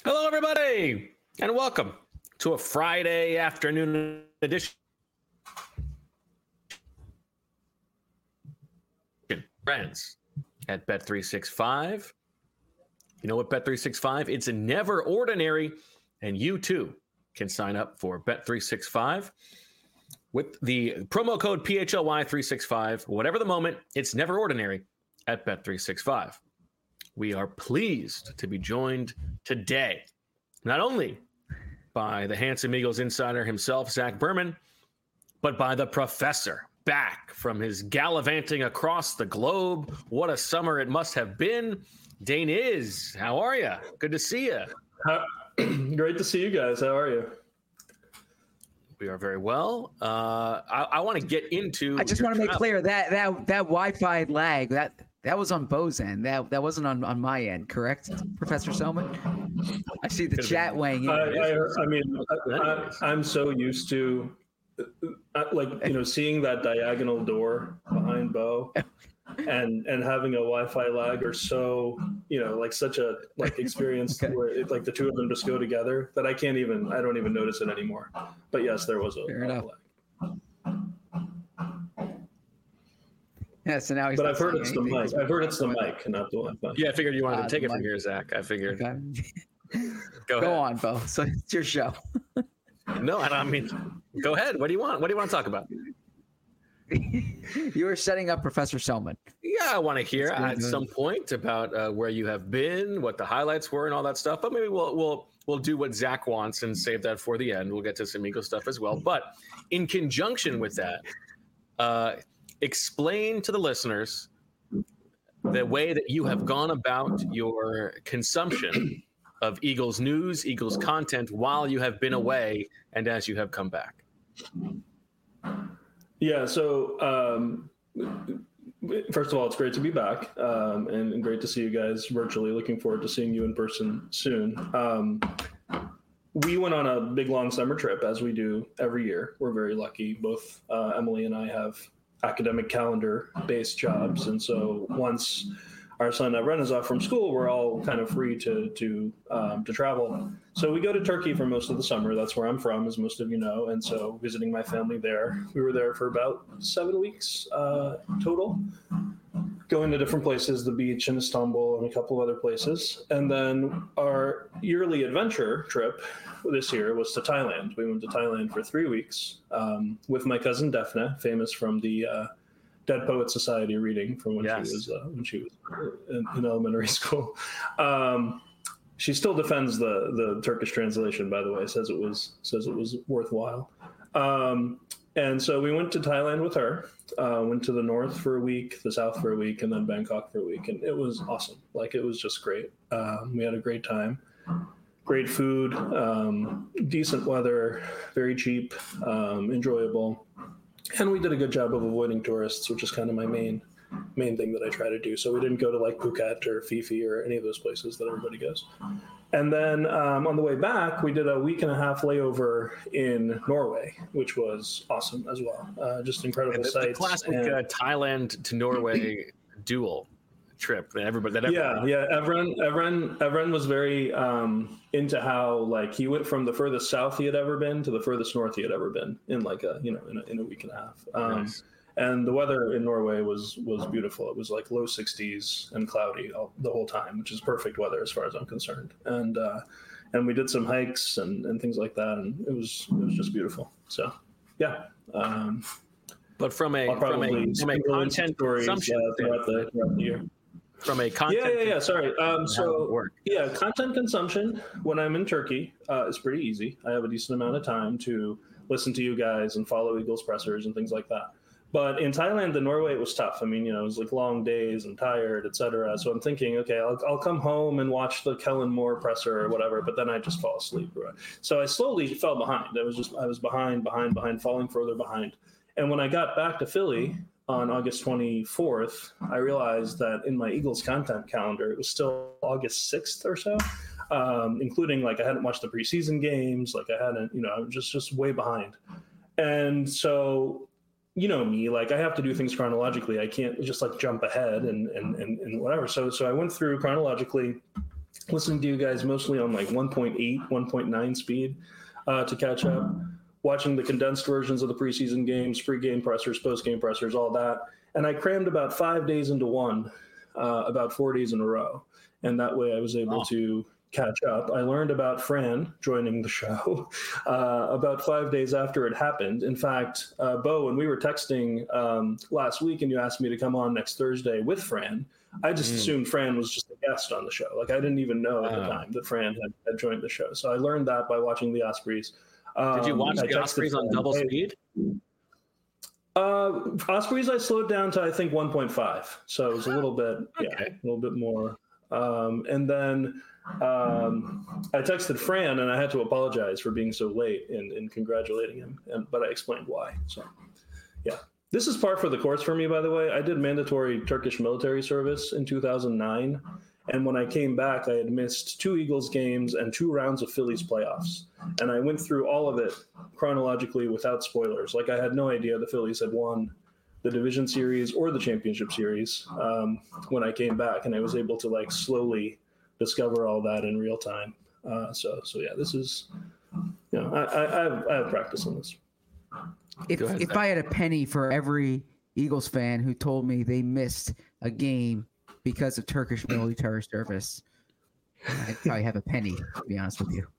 Hello, everybody, and welcome to a Friday afternoon edition. Friends at Bet365. You know what Bet365? It's never ordinary, and you too can sign up for Bet365 with the promo code PHLY365. Whatever the moment, it's never ordinary at Bet365. We are pleased to be joined today, not only by the Handsome Eagles insider himself, Zach Berman, but by the professor, back from his gallivanting across the globe. What a summer it must have been. Dane Is, how are you? Good to see you. Great to see you guys. How are you? We are very well. I want to get into. I just want to make clear that Wi-Fi lag that was on Bo's end. That wasn't on my end, correct, Professor Soman? I see the chat weighing in. I'm so used to, seeing that diagonal door behind Bo, and having a Wi-Fi lag are so, such a experience Okay. where the two of them just go together that I don't even notice it anymore. But yes, there was a lag. Yeah, so now he's. But I've heard it's the mic. I've heard it's the mic, not the Wi-Fi. Yeah, I figured you wanted to take it from here, Zach. I figured. Okay. Go on, Bo. So it's your show. No, I mean, go ahead. What do you want? What do you want to talk about? You were setting up Professor Soman. Yeah, I want to hear at some point about where you have been, what the highlights were, and all that stuff. But maybe we'll do what Zach wants and save that for the end. We'll get to some Eagle stuff as well. But in conjunction with that, explain to the listeners the way that you have gone about your consumption of Eagles news, Eagles content while you have been away and as you have come back. Yeah, so first of all, it's great to be back and great to see you guys virtually. Looking forward to seeing you in person soon. We went on a big, long summer trip, as we do every year. We're very lucky. Both Emily and I have academic calendar-based jobs, and so once our son Ren is off from school, we're all kind of free to travel. So we go to Turkey for most of the summer. That's where I'm from, as most of you know. And so visiting my family there, we were there for about 7 weeks total, going to different places, the beach in Istanbul and a couple of other places. And then our yearly adventure trip this year was to Thailand. We went to Thailand for 3 weeks with my cousin Daphne, famous from the Dead Poet Society reading from when she was in elementary school. She still defends the Turkish translation, by the way. Says it was worthwhile. And so we went to Thailand with her. Went to the north for a week, the south for a week, and then Bangkok for a week, and it was awesome. It was just great. We had a great time. Great food, decent weather, very cheap, enjoyable. And we did a good job of avoiding tourists, which is kind of my main thing that I try to do. So we didn't go to Phuket or Phi Phi or any of those places that everybody goes. And then on the way back, we did a 1.5 week layover in Norway, which was awesome as well. Just incredible sights. The classic Thailand to Norway duel trip that everybody. Yeah. Evren was very into how he went from the furthest south he had ever been to the furthest north he had ever been in in a 1.5 weeks. Nice. And the weather in Norway was beautiful. It was low 60s and cloudy the whole time, which is perfect weather as far as I'm concerned. And we did some hikes and things like that, and it was just beautiful. So yeah. But from a content consumption throughout the year. From a content Sorry. Content consumption when I'm in Turkey is pretty easy. I have a decent amount of time to listen to you guys and follow Eagles pressers and things like that. But in Thailand and Norway, it was tough. I mean, it was long days and tired, etc. So I'm thinking, okay, I'll come home and watch the Kellen Moore presser or whatever, but then I just fall asleep. So I slowly fell behind. I was behind, falling further behind. And when I got back to Philly on August 24th, I realized that in my Eagles content calendar, it was still August 6th or so, including I hadn't watched the preseason games. I hadn't, I was just way behind. And so, me, I have to do things chronologically. I can't just jump ahead and whatever. So I went through chronologically listening to you guys mostly on like 1.8, 1.9 speed to catch up, watching the condensed versions of the preseason games, pre-game pressers, post-game pressers, all that. And I crammed about 5 days into one, about 4 days in a row. And that way I was able to catch up. I learned about Fran joining the show about 5 days after it happened. In fact, Bo, when we were texting last week and you asked me to come on next Thursday with Fran, I just assumed Fran was just a guest on the show. Like, I didn't even know at the time that Fran had joined the show. So I learned that by watching the Ospreys. Did you watch the Ospreys on double speed? Ospreys I slowed down to, I think, 1.5. So it was a little bit, a little bit more. And then I texted Fran and I had to apologize for being so late in congratulating him. But I explained why. So, yeah. This is par for the course for me, by the way. I did mandatory Turkish military service in 2009. And when I came back, I had missed 2 Eagles games and 2 rounds of Phillies playoffs. And I went through all of it chronologically without spoilers. Like, I had no idea the Phillies had won the division series or the championship series when I came back. And I was able to, like, slowly discover all that in real time. So yeah, this is, you know, I have practice on this. If I had a penny for every Eagles fan who told me they missed a game because of Turkish military service, I'd probably have a penny, to be honest with you.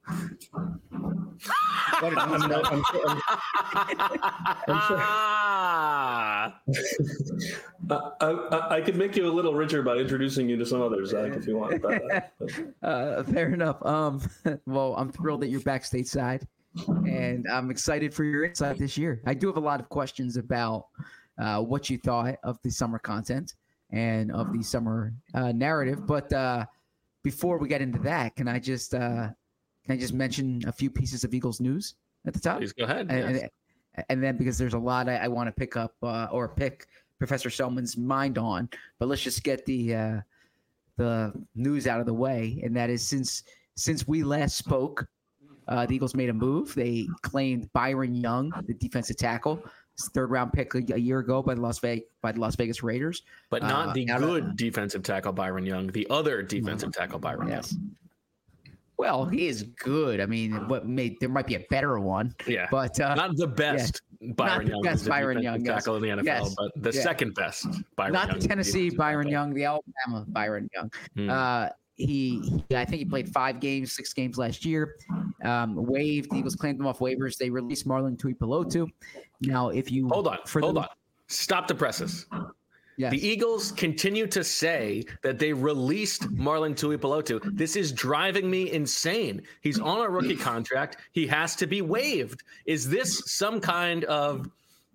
I could make you a little richer by introducing you to some others, Zach, if you want. Fair enough. Well, I'm thrilled that you're back stateside, and I'm excited for your insight this year. I do have a lot of questions about what you thought of the summer content and of the summer narrative, but before we get into that, can I just mention a few pieces of Eagles news at the top? Please go ahead. And then, because there's a lot I want to pick up or pick Professor Selman's mind on, but let's just get the news out of the way. And that is, since we last spoke, the Eagles made a move. They claimed Byron Young, the defensive tackle, third round pick a year ago by the Las Vegas Raiders, but not the good defensive tackle Byron Young, the other defensive tackle Byron Young. Well, he is good. I mean, there might be a better one. Yeah, but not the best Byron Young. Best Byron Young tackle in the NFL, but the second best Byron Young. Not the Tennessee Byron Young, the Alabama Byron Young. I think he played 6 games last year. Waived. The Eagles claimed him off waivers. They released Marlon Tuipulotu. Now, if you hold on, stop the presses. Yes. The Eagles continue to say that they released Marlon Tuipulotu. This is driving me insane. He's on a rookie contract. He has to be waived. Is this some kind of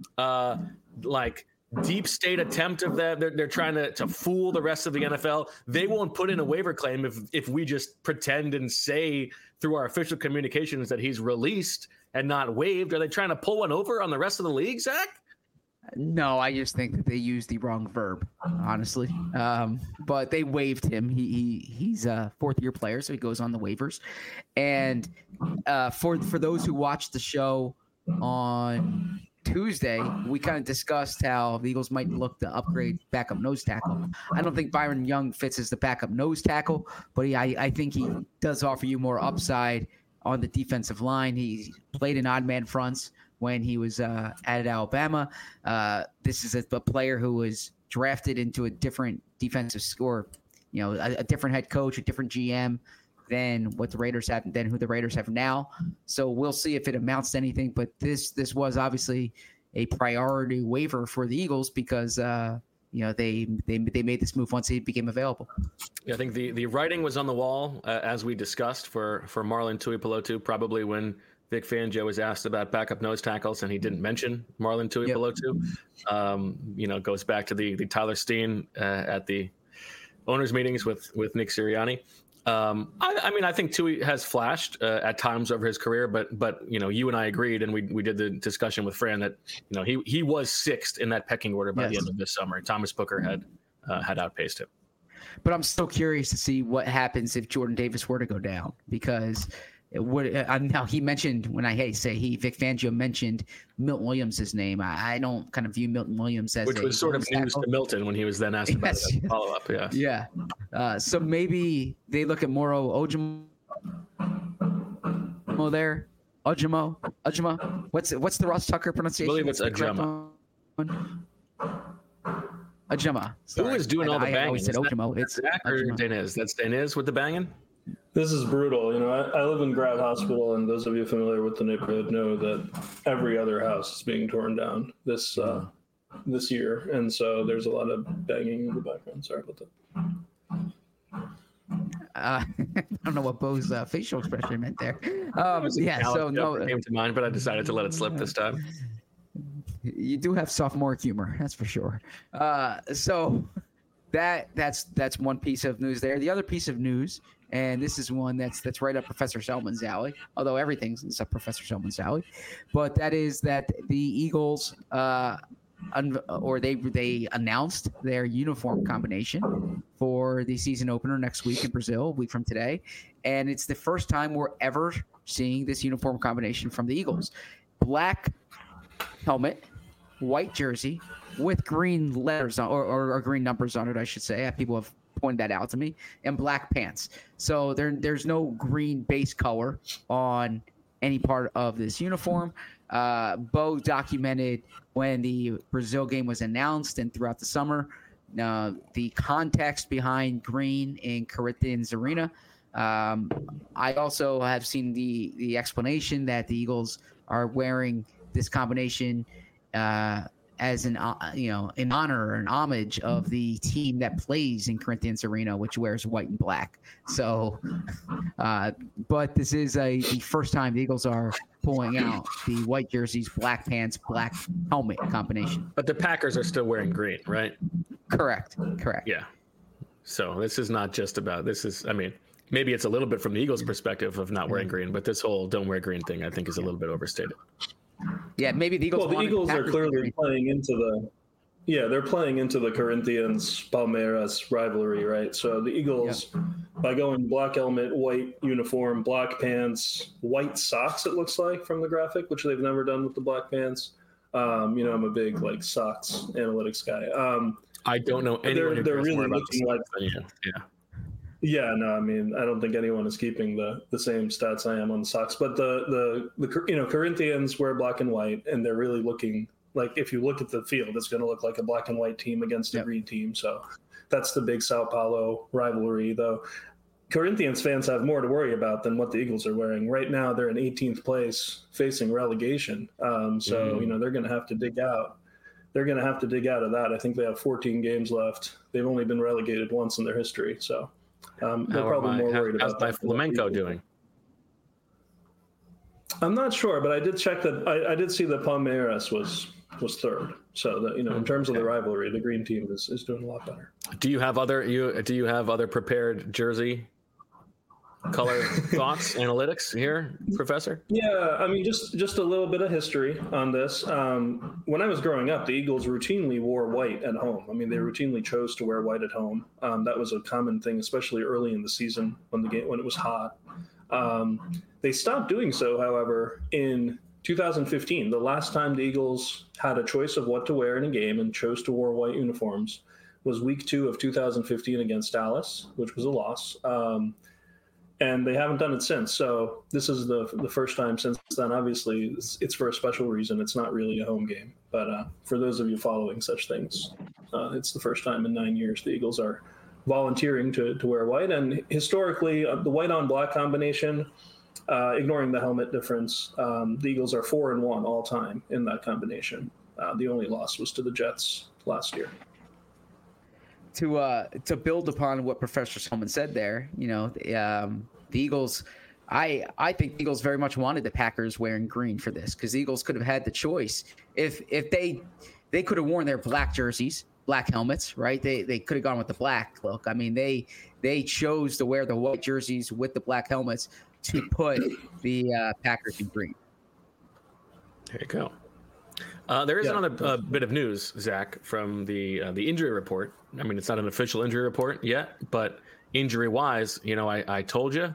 deep state attempt of that? They're trying to fool the rest of the NFL. They won't put in a waiver claim if we just pretend and say through our official communications that he's released and not waived. Are they trying to pull one over on the rest of the league, Zach? No, I just think that they used the wrong verb, honestly. But they waived him. He's a 4th-year player, so he goes on the waivers. And for those who watched the show on Tuesday, we kind of discussed how the Eagles might look to upgrade backup nose tackle. I don't think Byron Young fits as the backup nose tackle, but I think he does offer you more upside on the defensive line. He played in odd man fronts when he was at Alabama. This is a player who was drafted into a different defensive score, a different head coach, a different GM than what the Raiders have, than who the Raiders have now. So we'll see if it amounts to anything. But this was obviously a priority waiver for the Eagles because they made this move once he became available. Yeah, I think the writing was on the wall as we discussed for Marlon Tuipulotu, probably when Vic Fangio was asked about backup nose tackles, and he didn't mention Marlon Tuipulotu. Yep. Goes back to the Tyler Steen at the owners' meetings with Nick Sirianni. I think Tui has flashed at times over his career, but you and I agreed, and we did the discussion with Fran that he was 6th in that pecking order by the end of this summer. Thomas Booker had outpaced him. But I'm still curious to see what happens if Jordan Davis were to go down, because Now he mentioned Vic Fangio mentioned Milton Williams' name. I don't kind of view Milton Williams as which was sort of news to Milton when he was then asked about it follow up. Yeah. So maybe they look at Moro Ojimo there. Ojimo. What's the Ross Tucker pronunciation? I believe it's Ajama. Ajama. Who is doing all the banging? I always said Ojimo. It's Zach or Deniz? That's Deniz with the banging? This is brutal. I live in Grad Hospital, and those of you familiar with the neighborhood know that every other house is being torn down this year, and so there's a lot of banging in the background. Sorry about that. I don't know what Bo's facial expression meant there. So came to mind, but I decided to let it slip this time. You do have sophomoric humor, that's for sure. So that's one piece of news there. The other piece of news, and this is one that's right up Professor Selman's alley, although everything's up Professor Selman's alley, but that is that the Eagles they announced their uniform combination for the season opener next week in Brazil, a week from today, and it's the first time we're ever seeing this uniform combination from the Eagles. Black helmet, white jersey with green letters on, or green numbers on it, I should say. People have pointed that out to me, and black pants. So there's no green base color on any part of this uniform. Bo documented when the Brazil game was announced and throughout the summer, the context behind green in Corinthians Arena. I also have seen the explanation that the Eagles are wearing this combination as in honor or an homage of the team that plays in Corinthians Arena, which wears white and black. So, but this is the first time the Eagles are pulling out the white jerseys, black pants, black helmet combination. But the Packers are still wearing green, right? Correct. Yeah. So this is not just about maybe it's a little bit from the Eagles' perspective of not wearing green, but this whole don't wear green thing, I think, is a little bit overstated. Yeah, maybe the Eagles. Well, the Eagles are clearly playing into the Corinthians Palmeiras rivalry, right? So the Eagles, by going black helmet, white uniform, black pants, white socks, it looks like from the graphic, which they've never done with the black pants. I'm a big socks analytics guy. I don't know anyone. They're really looking like Yeah, no, I don't think anyone is keeping the same stats I am on the Sox, but the Corinthians wear black and white, and they're really looking like, if you look at the field, it's going to look like a black and white team against a green team. So that's the big Sao Paulo rivalry, though. Corinthians fans have more to worry about than what the Eagles are wearing. Right now, they're in 18th place facing relegation. They're going to have to dig out. They're going to have to dig out of that. I think they have 14 games left. They've only been relegated once in their history, so. They're probably more worried about that. How's Flamenco doing? I'm not sure, but I did check that. I did see that Palmeiras was third. So that in terms of the rivalry, the green team is doing a lot better. Do you have other prepared jersey color thoughts, analytics here, Professor? Yeah, just a little bit of history on this. When I was growing up, the Eagles routinely wore white at home. They routinely chose to wear white at home. That was a common thing, especially early in the season when it was hot. They stopped doing so, however, in 2015. The last time the Eagles had a choice of what to wear in a game and chose to wear white uniforms was week 2 of 2015 against Dallas, which was a loss. And they haven't done it since. So this is the first time since then. Obviously, it's for a special reason. It's not really a home game. But for those of you following such things, it's the first time in 9 years the Eagles are volunteering to wear white. And historically, the white on black combination, ignoring the helmet difference, the Eagles are 4-1 all time in that combination. The only loss was to the Jets last year. To build upon what Professor Selman said there, the Eagles, I think the Eagles very much wanted the Packers wearing green for this, because the Eagles could have had the choice. If they could have worn their black jerseys, black helmets, right? They could have gone with the black look. They chose to wear the white jerseys with the black helmets to put the Packers in green. There you go. There is another bit of news, Zach, from the injury report. It's not an official injury report yet, but injury-wise, I told you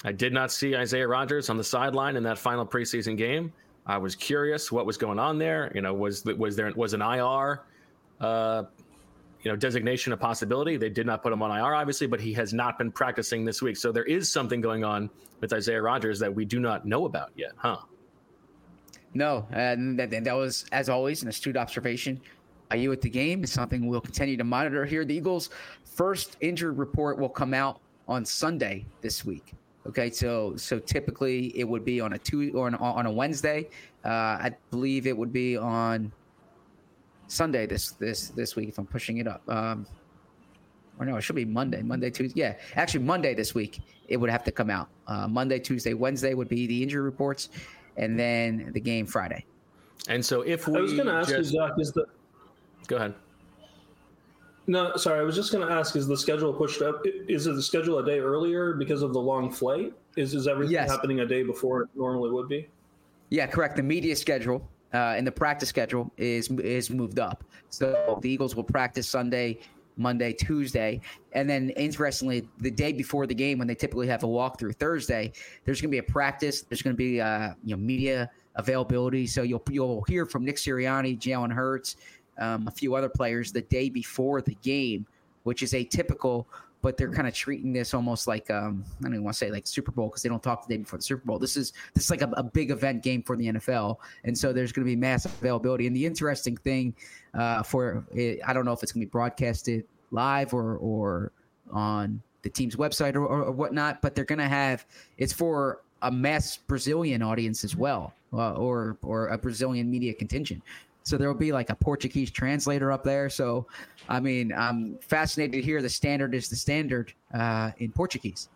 I did not see Isaiah Rodgers on the sideline in that final preseason game. I was curious what was going on there. Was an IR, designation a possibility? They did not put him on IR, obviously, but he has not been practicing this week. So there is something going on with Isaiah Rodgers that we do not know about yet, huh? No, and that was, as always, an astute observation. You at the game is something we'll continue to monitor here. The Eagles' first injury report will come out on Sunday this week. Okay, so typically it would be on a Tuesday or on a Wednesday. I believe it would be on Sunday this week if I'm pushing it up. Or no, it should be Monday, Tuesday. Yeah, actually Monday this week it would have to come out. Monday, Tuesday, Wednesday would be the injury reports, and then the game Friday. And so if we, I was going to ask you, Zach, Go ahead. No, sorry. I was just going to ask: is the schedule pushed up? Is it the schedule a day earlier because of the long flight? Is everything happening a day before it normally would be? Yeah, correct. The media schedule and the practice schedule is moved up. So the Eagles will practice Sunday, Monday, Tuesday, and then interestingly, the day before the game, when they typically have a walkthrough Thursday, there's going to be a practice. There's going to be media availability. So you'll hear from Nick Sirianni, Jalen Hurts, a few other players the day before the game, which is atypical, but they're kind of treating this almost like I don't even want to say like Super Bowl because they don't talk the day before the Super Bowl. This is like a big event game for the NFL, and so there's going to be massive availability. And the interesting thing for it, I don't know if it's going to be broadcasted live or on the team's website or whatnot, but they're going to have it's for a mass Brazilian audience as well, or a Brazilian media contingent. So there will be like a Portuguese translator up there. So, I mean, I'm fascinated to hear the standard is the standard in Portuguese.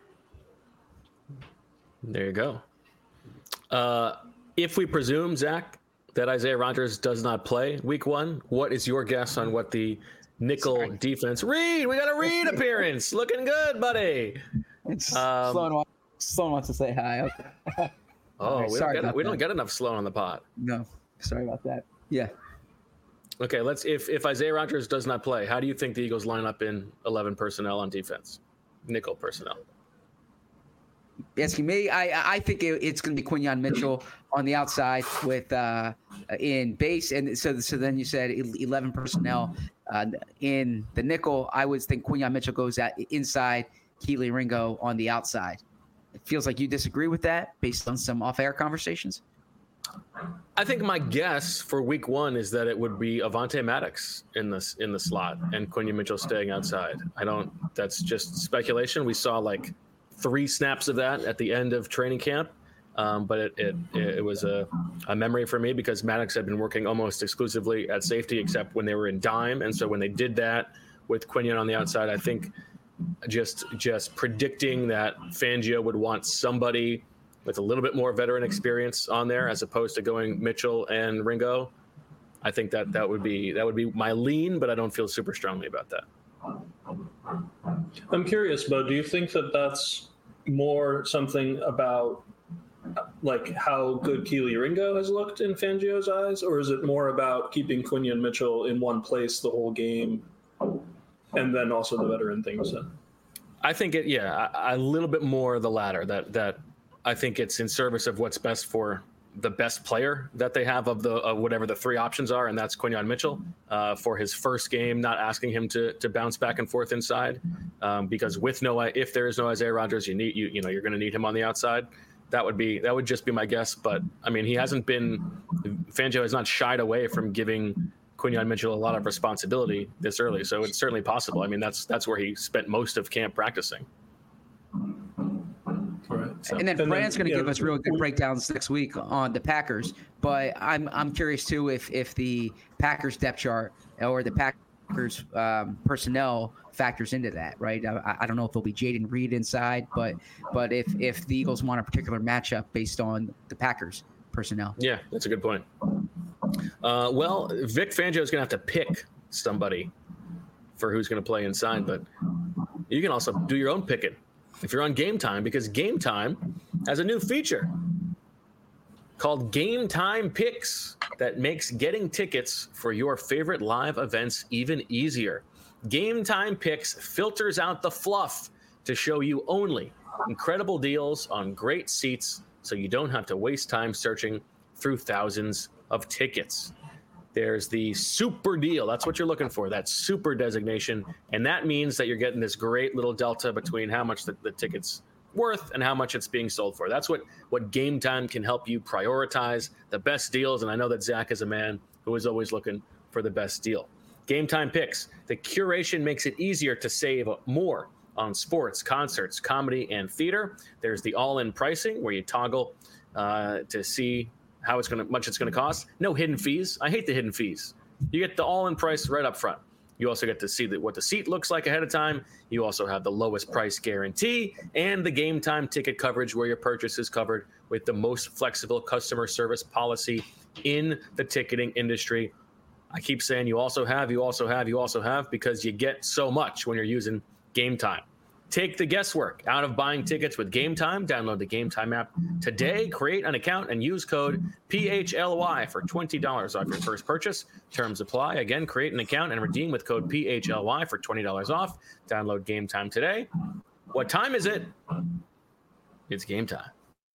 There you go. If we presume, Zach, that Isaiah Rodgers does not play week 1, what is your guess on what the nickel defense? Reed, we got a Reed appearance. Looking good, buddy. Sloan wants to say hi. Okay. Oh, right, we don't get enough Sloan on the pod. No, sorry about that. Yeah. Okay, if Isaiah Rodgers does not play, how do you think the Eagles line up in 11 personnel on defense? Nickel personnel. Asking me, I think it's going to be Quinyon Mitchell on the outside with in base, and so then you said 11 personnel in the nickel. I would think Quinyon Mitchell goes out inside, Kelee Ringo on the outside. It feels like you disagree with that based on some off-air conversations. I think my guess for week 1 is that it would be Avonte Maddox in the slot and Quinyon Mitchell staying outside. That's just speculation. We saw like 3 snaps of that at the end of training camp. But it was a memory for me because Maddox had been working almost exclusively at safety except when they were in dime. And so when they did that with Quinyon on the outside, I think just predicting that Fangio would want somebody with a little bit more veteran experience on there as opposed to going Mitchell and Ringo. I think that would be my lean, but I don't feel super strongly about that. I'm curious, Bo, do you think that that's more something about like how good Kelee Ringo has looked in Fangio's eyes, or is it more about keeping Quinyon Mitchell in one place the whole game and then also the veteran thing you said? I think a little bit more the latter, that I think it's in service of what's best for the best player that they have of the whatever the 3 options are, and that's Quinyon Mitchell for his first game, not asking him to bounce back and forth inside because if there is no Isaiah Rodgers, you're going to need him on the outside. That would just be my guess. But I mean, Fangio has not shied away from giving Quinyon Mitchell a lot of responsibility this early, so it's certainly possible. I mean, that's where he spent most of camp practicing. Right. So, and then Brand's going to give us real good breakdowns next week on the Packers. But I'm curious too if the Packers depth chart or the Packers personnel factors into that, right? I don't know if there'll be Jaden Reed inside, but if the Eagles want a particular matchup based on the Packers personnel. Yeah, that's a good point. Well, Vic Fangio is going to have to pick somebody for who's going to play inside, but you can also do your own picking if you're on Game Time, because Game Time has a new feature called Game Time Picks that makes getting tickets for your favorite live events even easier. Game Time Picks filters out the fluff to show you only incredible deals on great seats so you don't have to waste time searching through thousands of tickets. There's the super deal. That's what you're looking for, that super designation. And that means that you're getting this great little delta between how much the ticket's worth and how much it's being sold for. That's what Game Time can help you prioritize the best deals. And I know that Zach is a man who is always looking for the best deal. Game Time Picks. The curation makes it easier to save more on sports, concerts, comedy, and theater. There's the all-in pricing where you toggle to see how much it's gonna cost. No hidden fees. I hate the hidden fees. You get the all-in price right up front. You also get to see what the seat looks like ahead of time. You also have the lowest price guarantee and the Game Time ticket coverage where your purchase is covered with the most flexible customer service policy in the ticketing industry. I keep saying you also have because you get so much when you're using Game Time. Take the guesswork out of buying tickets with Game Time. Download the Game Time app today, create an account, and use code PHLY for $20 off your first purchase. Terms apply. Again, create an account and redeem with code PHLY for $20 off. Download Game Time today. What time is it? It's game time.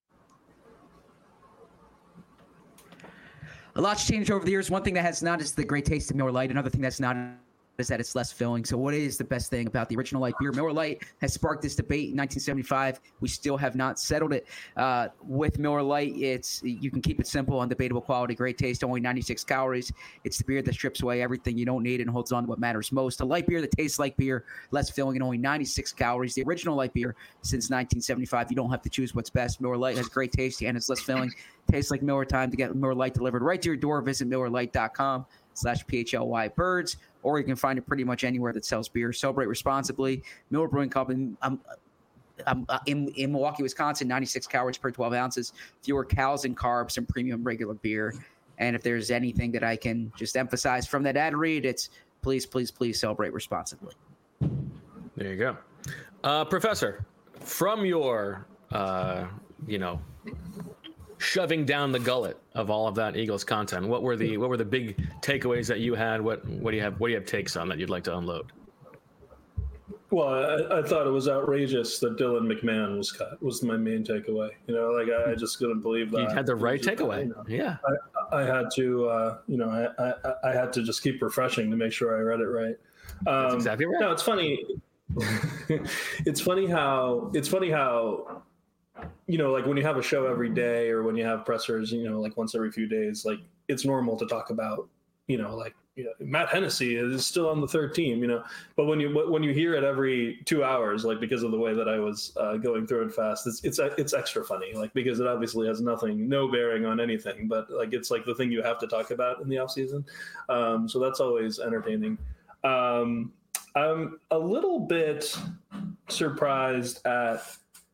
A lot's changed over the years. One thing that has not is the great taste of Miller Lite. Another thing that's not is that it's less filling. So what is the best thing about the original light beer? Miller Lite has sparked this debate in 1975. We still have not settled it. With Miller Lite, you can keep it simple, undebatable quality, great taste, only 96 calories. It's the beer that strips away everything you don't need and holds on to what matters most. A light beer that tastes like beer, less filling, and only 96 calories. The original light beer since 1975. You don't have to choose what's best. Miller Lite has great taste and it's less filling. Tastes like Miller time. To get Miller Lite delivered right to your door, visit MillerLite.com/PHLYBirds, or you can find it pretty much anywhere that sells beer. Celebrate responsibly. Miller Brewing Company. I'm in Milwaukee, Wisconsin, 96 calories per 12 ounces, fewer calories and carbs than premium regular beer. And if there's anything that I can just emphasize from that ad read, it's please, please, please celebrate responsibly. There you go. Professor, from your, shoving down the gullet of all of that Eagles content, what were the big takeaways that you had? What do you have takes on that you'd like to unload? Well, I thought it was outrageous that Dylan McMahon was cut. Was my main takeaway. I just couldn't believe that. You had the right takeaway. Yeah. I had to, I had to just keep refreshing to make sure I read it right. That's exactly right. No, it's funny. It's funny how like when you have a show every day or when you have pressers, like once every few days, like it's normal to talk about, Matt Hennessy is still on the third team, but when you hear it every 2 hours, like because of the way that I was going through it fast, it's extra funny, like because it obviously has no bearing on anything, but like it's like the thing you have to talk about in the off season. So that's always entertaining. I'm a little bit surprised at.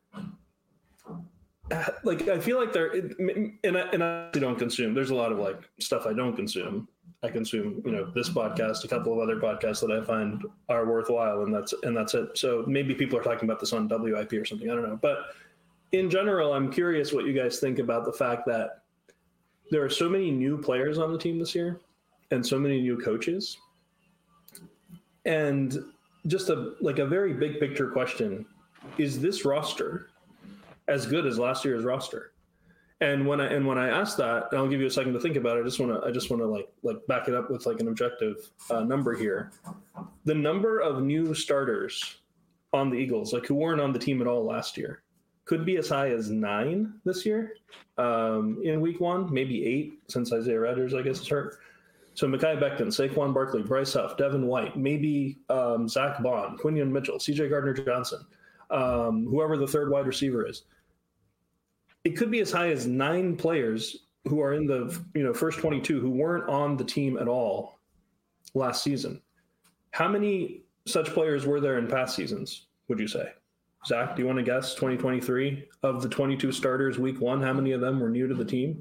Like I feel like and I don't consume. There's a lot of like stuff I don't consume. I consume, this podcast, a couple of other podcasts that I find are worthwhile, and that's it. So maybe people are talking about this on WIP or something. I don't know. But in general, I'm curious what you guys think about the fact that there are so many new players on the team this year, and so many new coaches, and just a very big picture question: is this roster as good as last year's roster? And when I ask that, and I'll give you a second to think about it, I just want to like back it up with like an objective number here. The number of new starters on the Eagles, like who weren't on the team at all last year, could be as high as 9 this year in week 1, maybe 8 since Isaiah Rodgers, I guess, is hurt. So Mekhi Becton, Saquon Barkley, Bryce Huff, Devin White, maybe Zach Bond, Quinion Mitchell, CJ Gardner-Johnson, whoever the third wide receiver is. It could be as high as 9 players who are in the first 22 who weren't on the team at all last season. How many such players were there in past seasons, would you say? Zach, do you want to guess 2023 of the 22 starters week 1, how many of them were new to the team?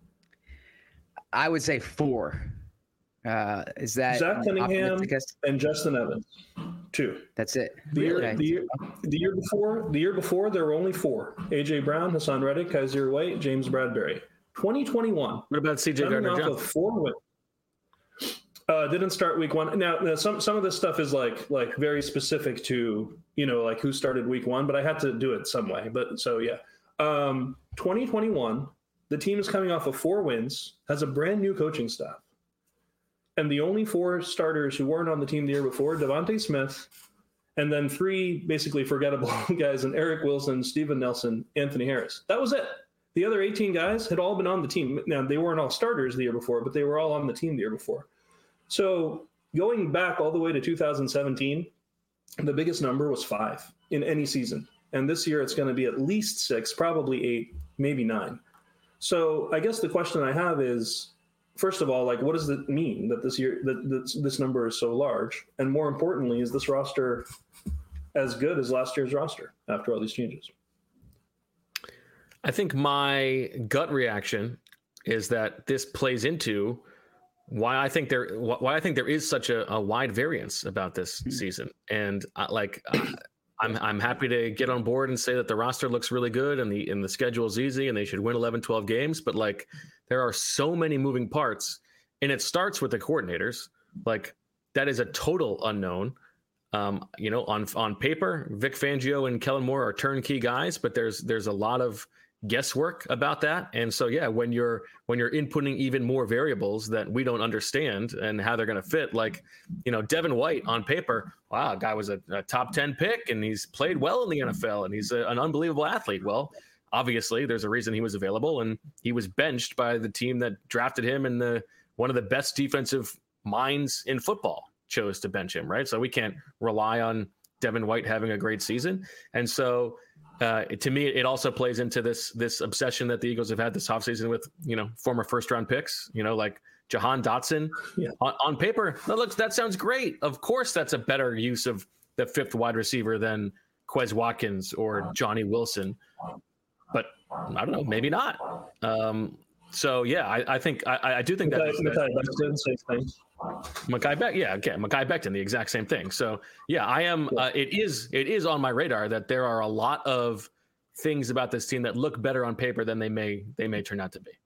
I would say 4. Is that Zach Cunningham and Justin Evans? 2. That's it. The year before there were only 4. AJ Brown, Hassan Reddick, Kaiser White, James Bradbury. 2021. What about CJ Gardner-Johnson? Didn't start week one. Now some of this stuff is like very specific to, like who started week one, but I had to do it some way. But so yeah, 2021, the team is coming off of 4 wins, has a brand new coaching staff, and the only 4 starters who weren't on the team the year before, Devontae Smith, and then 3 basically forgettable guys, and Eric Wilson, Steven Nelson, Anthony Harris. That was it. The other 18 guys had all been on the team. Now, they weren't all starters the year before, but they were all on the team the year before. So going back all the way to 2017, the biggest number was 5 in any season. And this year it's going to be at least 6, probably 8, maybe 9. So I guess the question I have is, first of all, like, what does it mean that this year that this number is so large? And more importantly, is this roster as good as last year's roster after all these changes? I think my gut reaction is that this plays into why I think there is such a wide variance about this season. And I'm happy to get on board and say that the roster looks really good and the schedule is easy and they should win 11, 12 games. But like, there are so many moving parts, and it starts with the coordinators. Like, that is a total unknown. On paper, Vic Fangio and Kellen Moore are turnkey guys, but there's a lot of guesswork about that. And so, yeah, when you're inputting even more variables that we don't understand and how they're going to fit, like, Devin White on paper, wow, guy was a top 10 pick and he's played well in the NFL and he's an unbelievable athlete. Well, obviously there's a reason he was available, and he was benched by the team that drafted him, and one of the best defensive minds in football chose to bench him, right? So we can't rely on Devin White having a great season. And so to me, it also plays into this obsession that the Eagles have had this offseason with, former first-round picks, like Jahan Dotson. Yeah. On paper, that sounds great. Of course, that's a better use of the 5th wide receiver than Quez Watkins or Johnny Wilson. But I don't know, maybe not. So, yeah, I think I do think Mekhi Becton, the exact same thing. So, yeah, I am. It is on my radar that there are a lot of things about this team that look better on paper than they may turn out to be.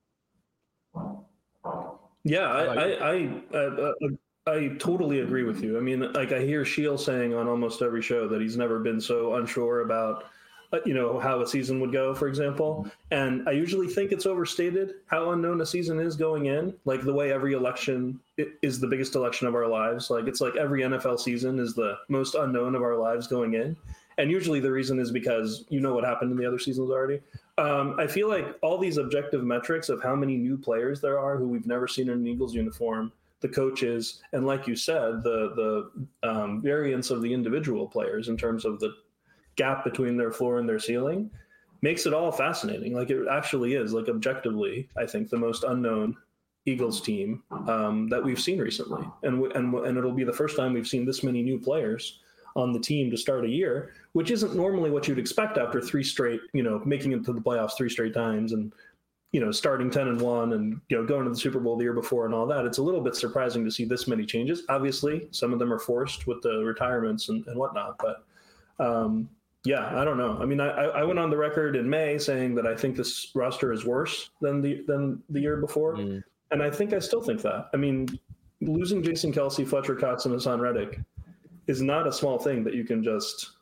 Yeah, I totally agree with you. I mean, like, I hear Sheil saying on almost every show that he's never been so unsure about how a season would go, for example. And I usually think it's overstated how unknown a season is going in, like the way every election is the biggest election of our lives. Like, it's like every NFL season is the most unknown of our lives going in. And usually the reason is because what happened in the other seasons already. I feel like all these objective metrics of how many new players there are who we've never seen in an Eagles uniform, the coaches, and like you said, the variance of the individual players in terms of the gap between their floor and their ceiling makes it all fascinating. Like, it actually is, like, objectively, I think the most unknown Eagles team that we've seen recently. And it'll be the first time we've seen this many new players on the team to start a year, which isn't normally what you'd expect after 3 straight, making it to the playoffs 3 straight times and, starting 10-1 and, going to the Super Bowl the year before and all that. It's a little bit surprising to see this many changes. Obviously, some of them are forced with the retirements and whatnot, but yeah, I don't know. I mean, I went on the record in May saying that I think this roster is worse than the year before. And I think I still think that. I mean, losing Jason Kelce, Fletcher Cox, and Hassan Reddick is not a small thing that you can just,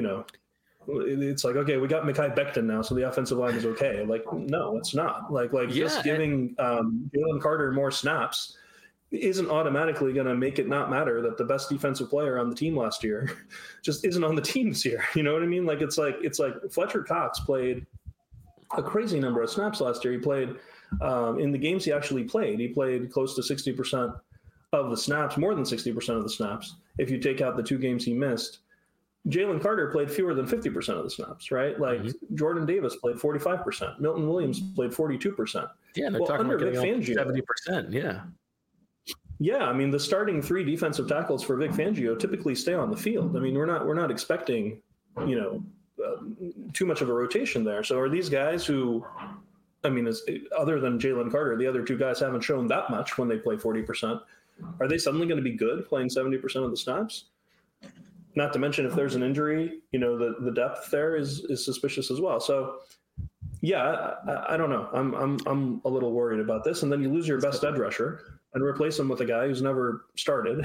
it's like, okay, we got Mekhi Becton now, so the offensive line is okay. Like, no, it's not. Like just giving Jalen Carter more snaps isn't automatically going to make it not matter that the best defensive player on the team last year just isn't on the team this year. You know what I mean? Like, it's like Fletcher Cox played a crazy number of snaps last year. He played in the games he actually played. He played close to 60% of the snaps, more than 60% of the snaps. If you take out the 2 games he missed, Jalen Carter played fewer than 50% of the snaps, right? Like, Jordan Davis played 45%. Milton Williams played 42%. Yeah, they're talking about getting 70%. Yeah. Yeah, I mean, the starting 3 defensive tackles for Vic Fangio typically stay on the field. I mean, we're not expecting, too much of a rotation there. So are these guys who, I mean, other than Jalen Carter, the other 2 guys haven't shown that much when they play 40%. Are they suddenly going to be good playing 70% of the snaps? Not to mention, if there's an injury, the depth there is suspicious as well. So Yeah, I don't know. I'm a little worried about this. And then you lose your best edge rusher and replace him with a guy who's never started.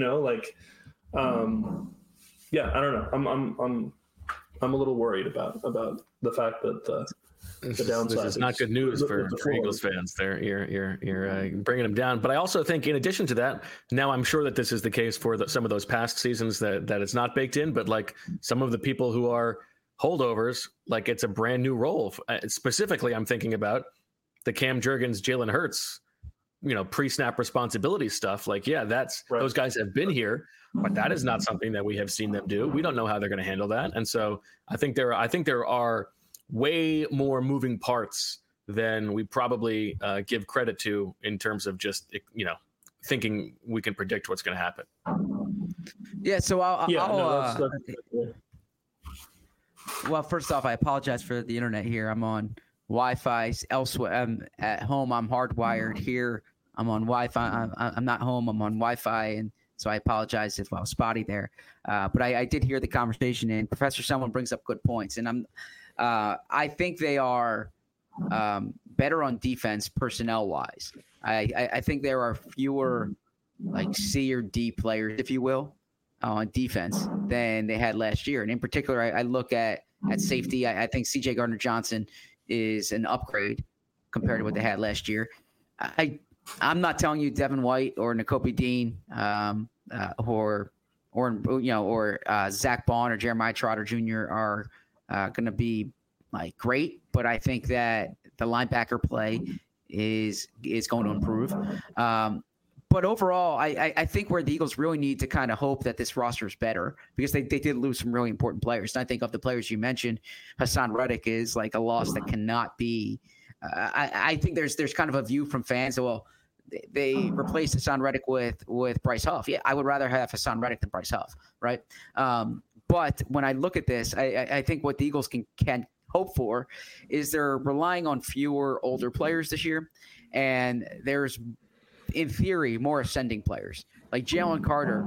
Yeah, I don't know. I'm a little worried about the fact that the downside. This is not good news for Eagles fans. There, you're bringing them down. But I also think, in addition to that, now I'm sure that this is the case for some of those past seasons that it's not baked in. But like some of the people who are holdovers, like it's a brand new role. Specifically, I'm thinking about the Cam Jurgens, Jalen Hurts, pre-snap responsibility stuff. Like, yeah, that's right. Those guys have been here, but that is not something that we have seen them do. We don't know how they're going to handle that. And so I think there are way more moving parts than we probably give credit to in terms of just, thinking we can predict what's going to happen. Yeah. So well, first off, I apologize for the internet here. I'm on Wi-Fi elsewhere. I'm at home. I'm hardwired here. I'm on Wi-Fi. I'm not home. I'm on Wi-Fi, and so I apologize if I was spotty there. But I did hear the conversation, and Professor Someone brings up good points, and I think they are better on defense personnel-wise. I think there are fewer like C or D players, if you will, on defense than they had last year. And in particular, I look at safety. I think C.J. Gardner-Johnson is an upgrade compared to what they had last year. I'm not telling you Devin White or Nakobe Dean or Zach Bond or Jeremiah Trotter Jr. are going to be like great, but I think that the linebacker play is going to improve. But overall, I think where the Eagles really need to kind of hope that this roster is better, because they did lose some really important players. And I think of the players you mentioned, Hassan Reddick is like a loss that cannot be. I think there's kind of a view from fans that, well, they replaced Hassan Reddick with Bryce Huff. Yeah, I would rather have Hassan Reddick than Bryce Huff, right? But when I look at this, I think what the Eagles can hope for is they're relying on fewer older players this year, and there's, in theory, more ascending players. Like Jalen Carter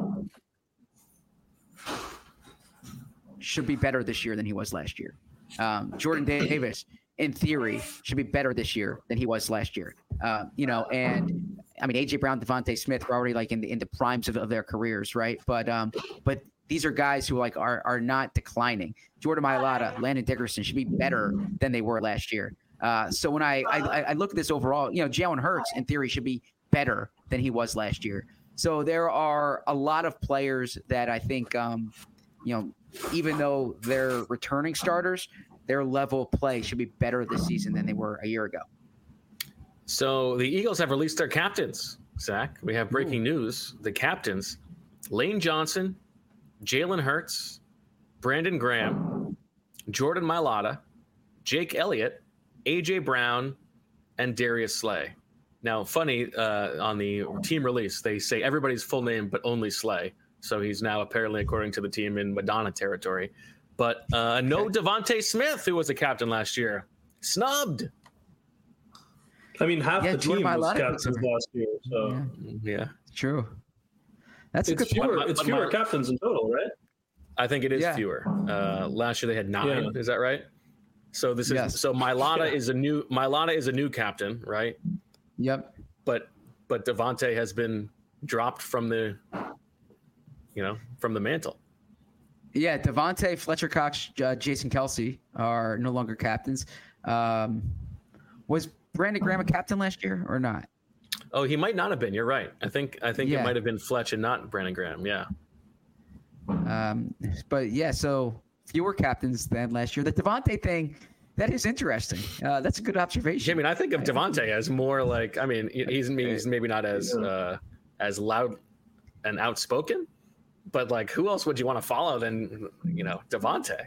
should be better this year than he was last year. Jordan Davis, in theory, should be better this year than he was last year. And I mean, AJ Brown, Devontae Smith were already like in the primes of their careers, right? But these are guys who like are not declining. Jordan Mailata, Landon Dickerson should be better than they were last year. So when I look at this overall, Jalen Hurts in theory should be better than he was last year. So there are a lot of players that I think, even though they're returning starters, their level of play should be better this season than they were a year ago. So the Eagles have released their captains, Zach. We have breaking news. The captains, Lane Johnson, Jalen Hurts, Brandon Graham, Jordan Mailata, Jake Elliott, AJ Brown, and Darius Slay. Now, funny, on the team release, they say everybody's full name, but only Slay. So he's now apparently, according to the team, in Madonna territory. But no Devontae Smith, who was the captain last year. Snubbed. I mean, half the team was captains last year. So yeah. True. That's a good point. It's fewer captains in total, right? I think it is fewer. Last year they had 9. Yeah. Is that right? So this is so Mailata is a new captain, right? Yep. But Devontae has been dropped from the mantle. Yeah, Devontae, Fletcher Cox, Jason Kelce are no longer captains. Was Brandon Graham a captain last year or not? Oh, he might not have been. You're right. I think it might have been Fletch and not Brandon Graham. Yeah. But yeah, so fewer captains than last year. The Devontae thing, that is interesting. That's a good observation. I mean, I think of Devontae as more like, I mean, he's maybe not as loud and outspoken, but like, who else would you want to follow than Devontae?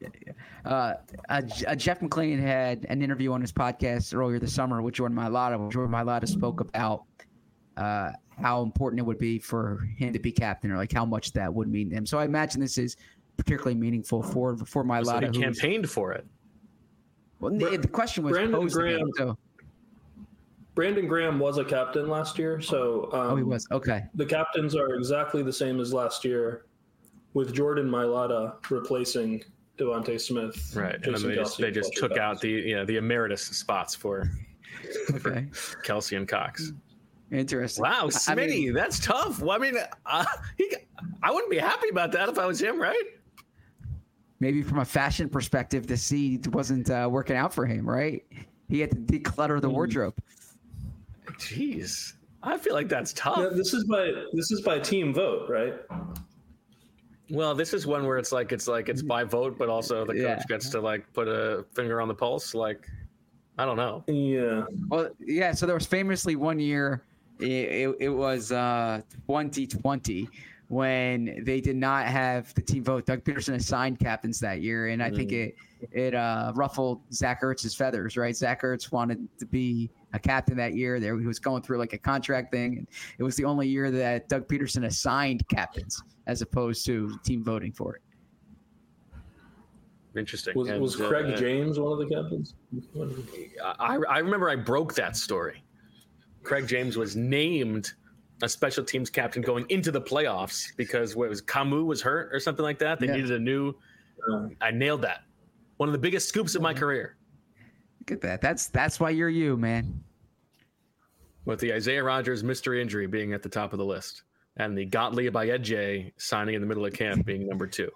Jeff McLean had an interview on his podcast earlier this summer with Jordan Mailata. Jordan Mailata spoke about how important it would be for him to be captain, or like how much that would mean to him. So I imagine this is particularly meaningful for Mailata. So he campaigned for it. Well, the question was posed to him, so. Brandon Graham was a captain last year, so he was. Okay. The captains are exactly the same as last year, with Jordan Mailata replacing Devontae Smith. Right. And then they just took out the emeritus spots for Kelce and Cox. Interesting. Wow, Smitty, that's tough. Well, I mean, I wouldn't be happy about that if I was him, right? Maybe from a fashion perspective, the seed wasn't working out for him, right? He had to declutter the wardrobe. Jeez, I feel like that's tough. Yeah, this is by team vote, right? Well, this is one where it's by vote, but also the coach gets to like put a finger on the pulse. Like, I don't know. Yeah. Well, yeah. So there was famously one year. It was 2020 when they did not have the team vote. Doug Peterson assigned captains that year, and I think it ruffled Zach Ertz's feathers. Right, Zach Ertz wanted to be a captain that year. There, he was going through like a contract thing, and it was the only year that Doug Peterson assigned captains as opposed to team voting for it. Interesting. Was Craig James one of the captains? I remember I broke that story. Craig James was named a special teams captain going into the playoffs because Camus was hurt or something like that. They needed a new. I nailed that. One of the biggest scoops of my career. Look at that. That's why you're you, man. With the Isaiah Rodgers mystery injury being at the top of the list, and the Gottlieb Ayedje signing in the middle of camp being number 2.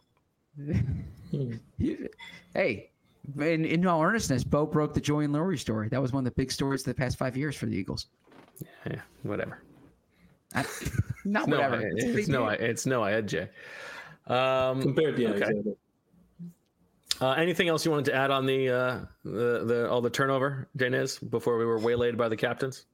Hey, in all earnestness, Bo broke the Joy and Laurie story. That was one of the big stories of the past 5 years for the Eagles. Yeah, whatever. Whatever. It's no Ayedje. Compared to okay. Anything else you wanted to add on the all the turnover, Janez, before we were waylaid by the captains?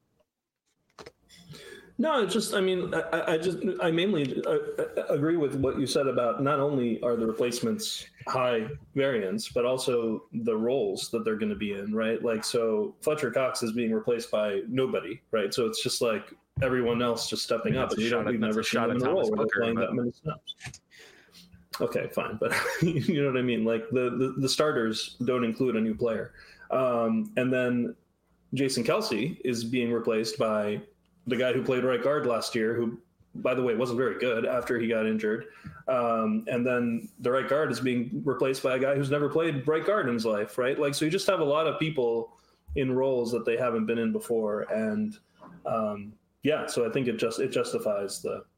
No, it's just, I mean, I mainly agree with what you said about not only are the replacements high variance, but also the roles that they're going to be in, right? Like, so Fletcher Cox is being replaced by nobody, right? So it's just like everyone else just stepping up. And we've never seen them in a role where they're playing that many snaps. Okay, fine. But you know what I mean? Like the starters don't include a new player. And then Jason Kelce is being replaced by the guy who played right guard last year, who, by the way, wasn't very good after he got injured. And then the right guard is being replaced by a guy who's never played right guard in his life, right? Like, so you just have a lot of people in roles that they haven't been in before. And so I think it justifies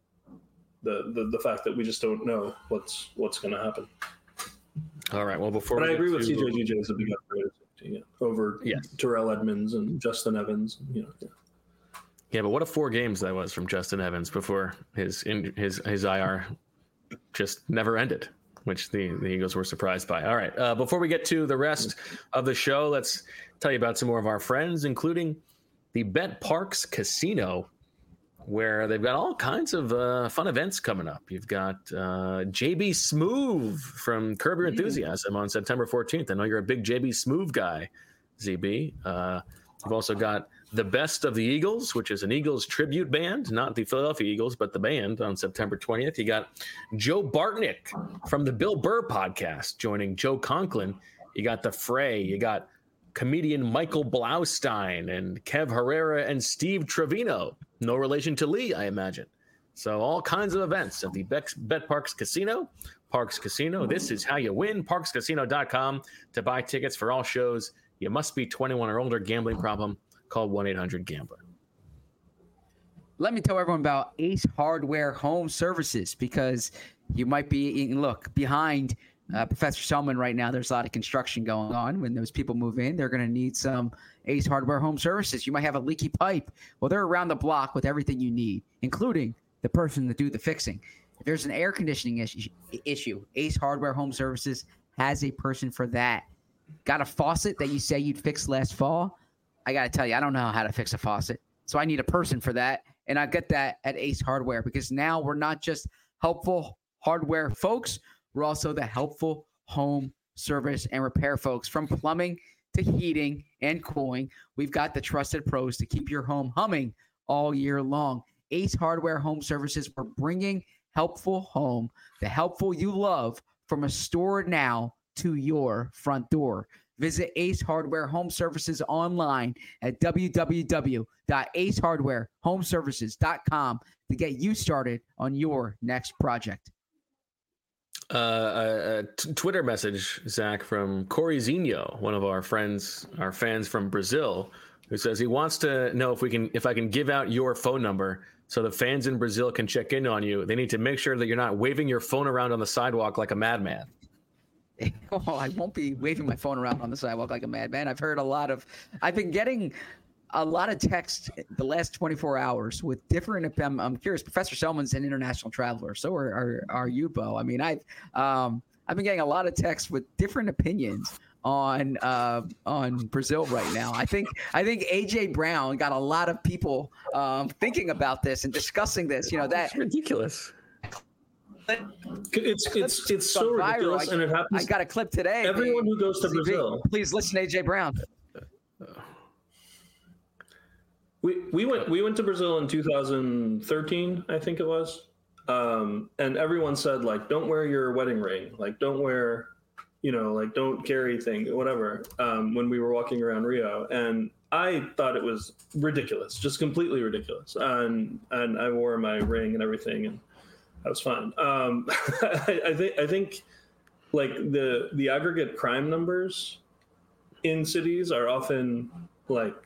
the fact that we just don't know what's going to happen. All right. Well, I agree with CJ is a big upgrade over Terrell Edmonds and Justin Evans. Yeah, but what a 4 games that was from Justin Evans before his IR just never ended, which the Eagles were surprised by. All right, before we get to the rest of the show, let's tell you about some more of our friends, including the BetParx Casino, where they've got all kinds of fun events coming up. You've got JB Smoove from Curb Your Enthusiasm on September 14th. I know you're a big JB Smoove guy, ZB. You've also got The Best of the Eagles, which is an Eagles tribute band, not the Philadelphia Eagles, but the band on September 20th. You got Joe Bartnick from the Bill Burr podcast joining Joe Conklin. You got The Fray. You got comedian Michael Blaustein and Kev Herrera and Steve Trevino. No relation to Lee, I imagine. So all kinds of events at the BetParx Casino. Parx Casino, this is how you win. ParxCasino.com to buy tickets for all shows. You must be 21 or older. Gambling problem, call 1-800-GAMBLER. Let me tell everyone about Ace Hardware Home Services, because you might be behind Professor Selman right now. There's a lot of construction going on. When those people move in, they're going to need some Ace Hardware Home Services. You might have a leaky pipe. Well, they're around the block with everything you need, including the person to do the fixing. If there's an air conditioning issue, Ace Hardware Home Services has a person for that. Got a faucet that you say you'd fix last fall? I got to tell you, I don't know how to fix a faucet. So I need a person for that. And I get that at Ace Hardware, because now we're not just helpful hardware folks. We're also the helpful home service and repair folks. From plumbing to heating and cooling, we've got the trusted pros to keep your home humming all year long. Ace Hardware Home Services, we're bringing helpful home, the helpful you love, from a store now to your front door. Visit Ace Hardware Home Services online at www.acehardwarehomeservices.com to get you started on your next project. Twitter message, Zach, from Corey Zinho, one of our fans from Brazil, who says he wants to know if I can give out your phone number so the fans in Brazil can check in on you. They need to make sure that you're not waving your phone around on the sidewalk like a madman. Oh, I won't be waving my phone around on the sidewalk like a madman. I've been getting a lot of text the last 24 hours with different. I'm curious. Professor Selman's an international traveler, so are you, Bo? I mean, I've been getting a lot of texts with different opinions on Brazil right now. I think AJ Brown got a lot of people thinking about this and discussing this. You know, that's ridiculous. It's so ridiculous, and it happens. I got a clip today. Everyone who goes to Brazil, please listen to AJ Brown. We went to Brazil in 2013, I think it was, and everyone said, like, don't wear your wedding ring, like, don't wear, like, don't carry thing, whatever. When we were walking around Rio, and I thought it was ridiculous, just completely ridiculous, and I wore my ring and everything, and I was fine. I think like the aggregate crime numbers in cities are often like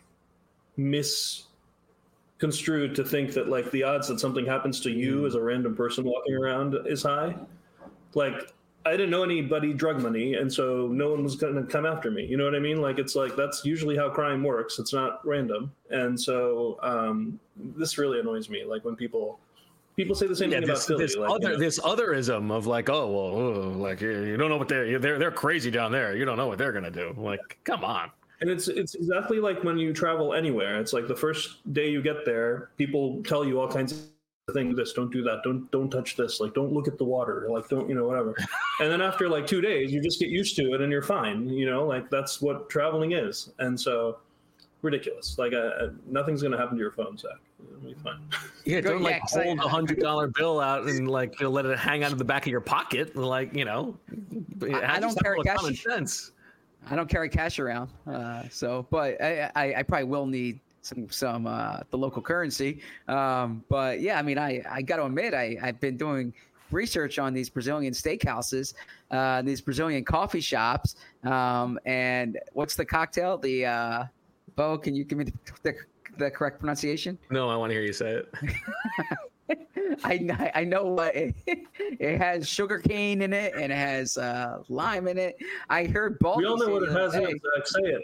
misconstrued to think that like the odds that something happens to you as a random person walking around is high. Like, I didn't know anybody drug money, and so no one was going to come after me. You know what I mean? Like, it's like that's usually how crime works. It's not random. And so this really annoys me. Like when people say the same thing about Philly. This otherism of like, oh well, like you don't know what they're crazy down there. You don't know what they're gonna do. Like, come on. And it's exactly like when you travel anywhere. It's like the first day you get there, people tell you all kinds of things. This, don't do that. Don't touch this. Like, don't look at the water. Like, don't, whatever. And then after like 2 days, you just get used to it and you're fine. Like that's what traveling is. And so ridiculous. Like nothing's gonna happen to your phone, Zach. It'll be fine. Yeah, don't like hold $100 bill out and like let it hang out of the back of your pocket. Like I don't carry cash. I don't carry cash around. But I probably will need some the local currency. But yeah, I mean, I got to admit, I've been doing research on these Brazilian steakhouses, these Brazilian coffee shops, and what's the cocktail? The Bo, can you give me the correct pronunciation? No, I want to hear you say it. I know what it has sugar cane in it and it has lime in it. I heard Baldy. We all know what it has in it. Say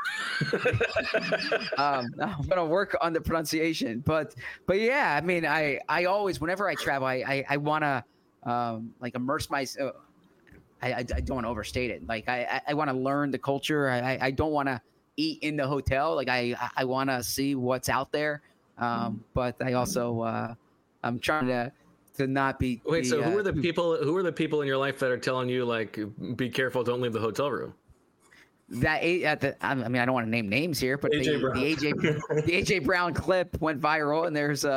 it. I'm gonna work on the pronunciation, but yeah, I mean, I always, whenever I travel, I wanna like immerse myself. I don't want to overstate it. Like I want to learn the culture. I don't want to eat in the hotel. Like I want to see what's out there. But I also I'm trying to not be. Wait, so who are the people in your life that are telling you like, be careful, don't leave the hotel room? I mean, I don't want to name names here, but the AJ Brown clip went viral, and there's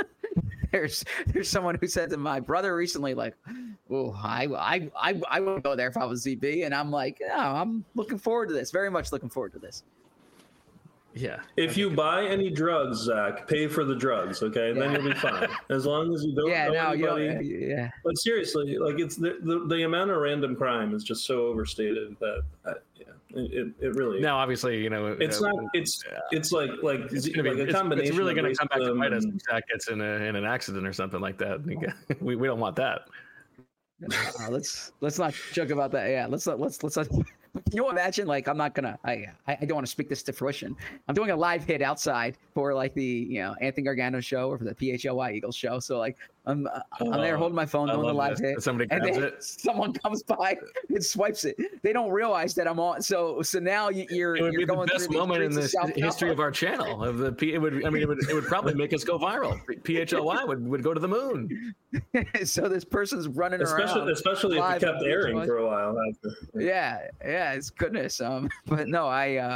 there's someone who said to my brother recently, like, "Oh, I would go there if I was ZB," and I'm like, "No, I'm looking forward to this. Very much looking forward to this." Yeah. If you buy any drugs, Zach, pay for the drugs, okay? Then you'll be fine. As long as you don't know anybody. Yeah. But seriously, like it's the amount of random crime is just so overstated that it really. Now, obviously, it's not. It's like a combination. It's really going to come back to bite us if Zach gets in an accident or something like that. We don't want that. Let's not joke about that. Yeah. Let's not. Can you imagine? Like, I'm not gonna. I don't want to speak this to fruition. I'm doing a live hit outside for like the Anthony Gargano show or for the PHLY Eagles show. So like I'm there holding my phone doing the live hit. Somebody grabs it. Someone comes by and swipes it. They don't realize that I'm on. So now you're. It would be going the best moment in the history of our channel. It would probably make us go viral. PHLY would go to the moon. So this person's running around, especially if it kept airing for a while. Yeah, it's goodness. But no,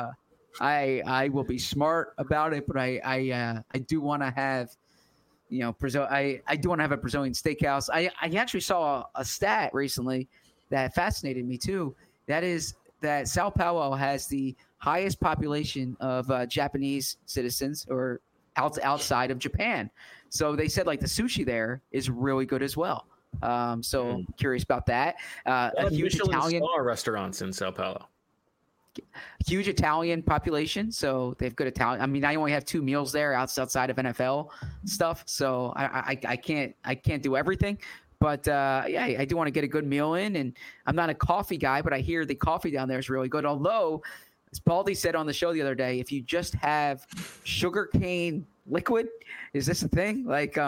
I will be smart about it. But I do want to have, Brazil. I do want to have a Brazilian steakhouse. I actually saw a stat recently that fascinated me too. That is that Sao Paulo has the highest population of Japanese citizens or outside of Japan. So they said like the sushi there is really good as well. So curious about that. A huge Michelin Italian star restaurants in Sao Paulo. Huge Italian population, so they have good Italian. I mean, I only have 2 meals there outside of NFL stuff, so I can't do everything. But yeah, I do want to get a good meal in, and I'm not a coffee guy, but I hear the coffee down there is really good. Although, as Baldy said on the show the other day, if you just have sugarcane liquid, is this a thing? Like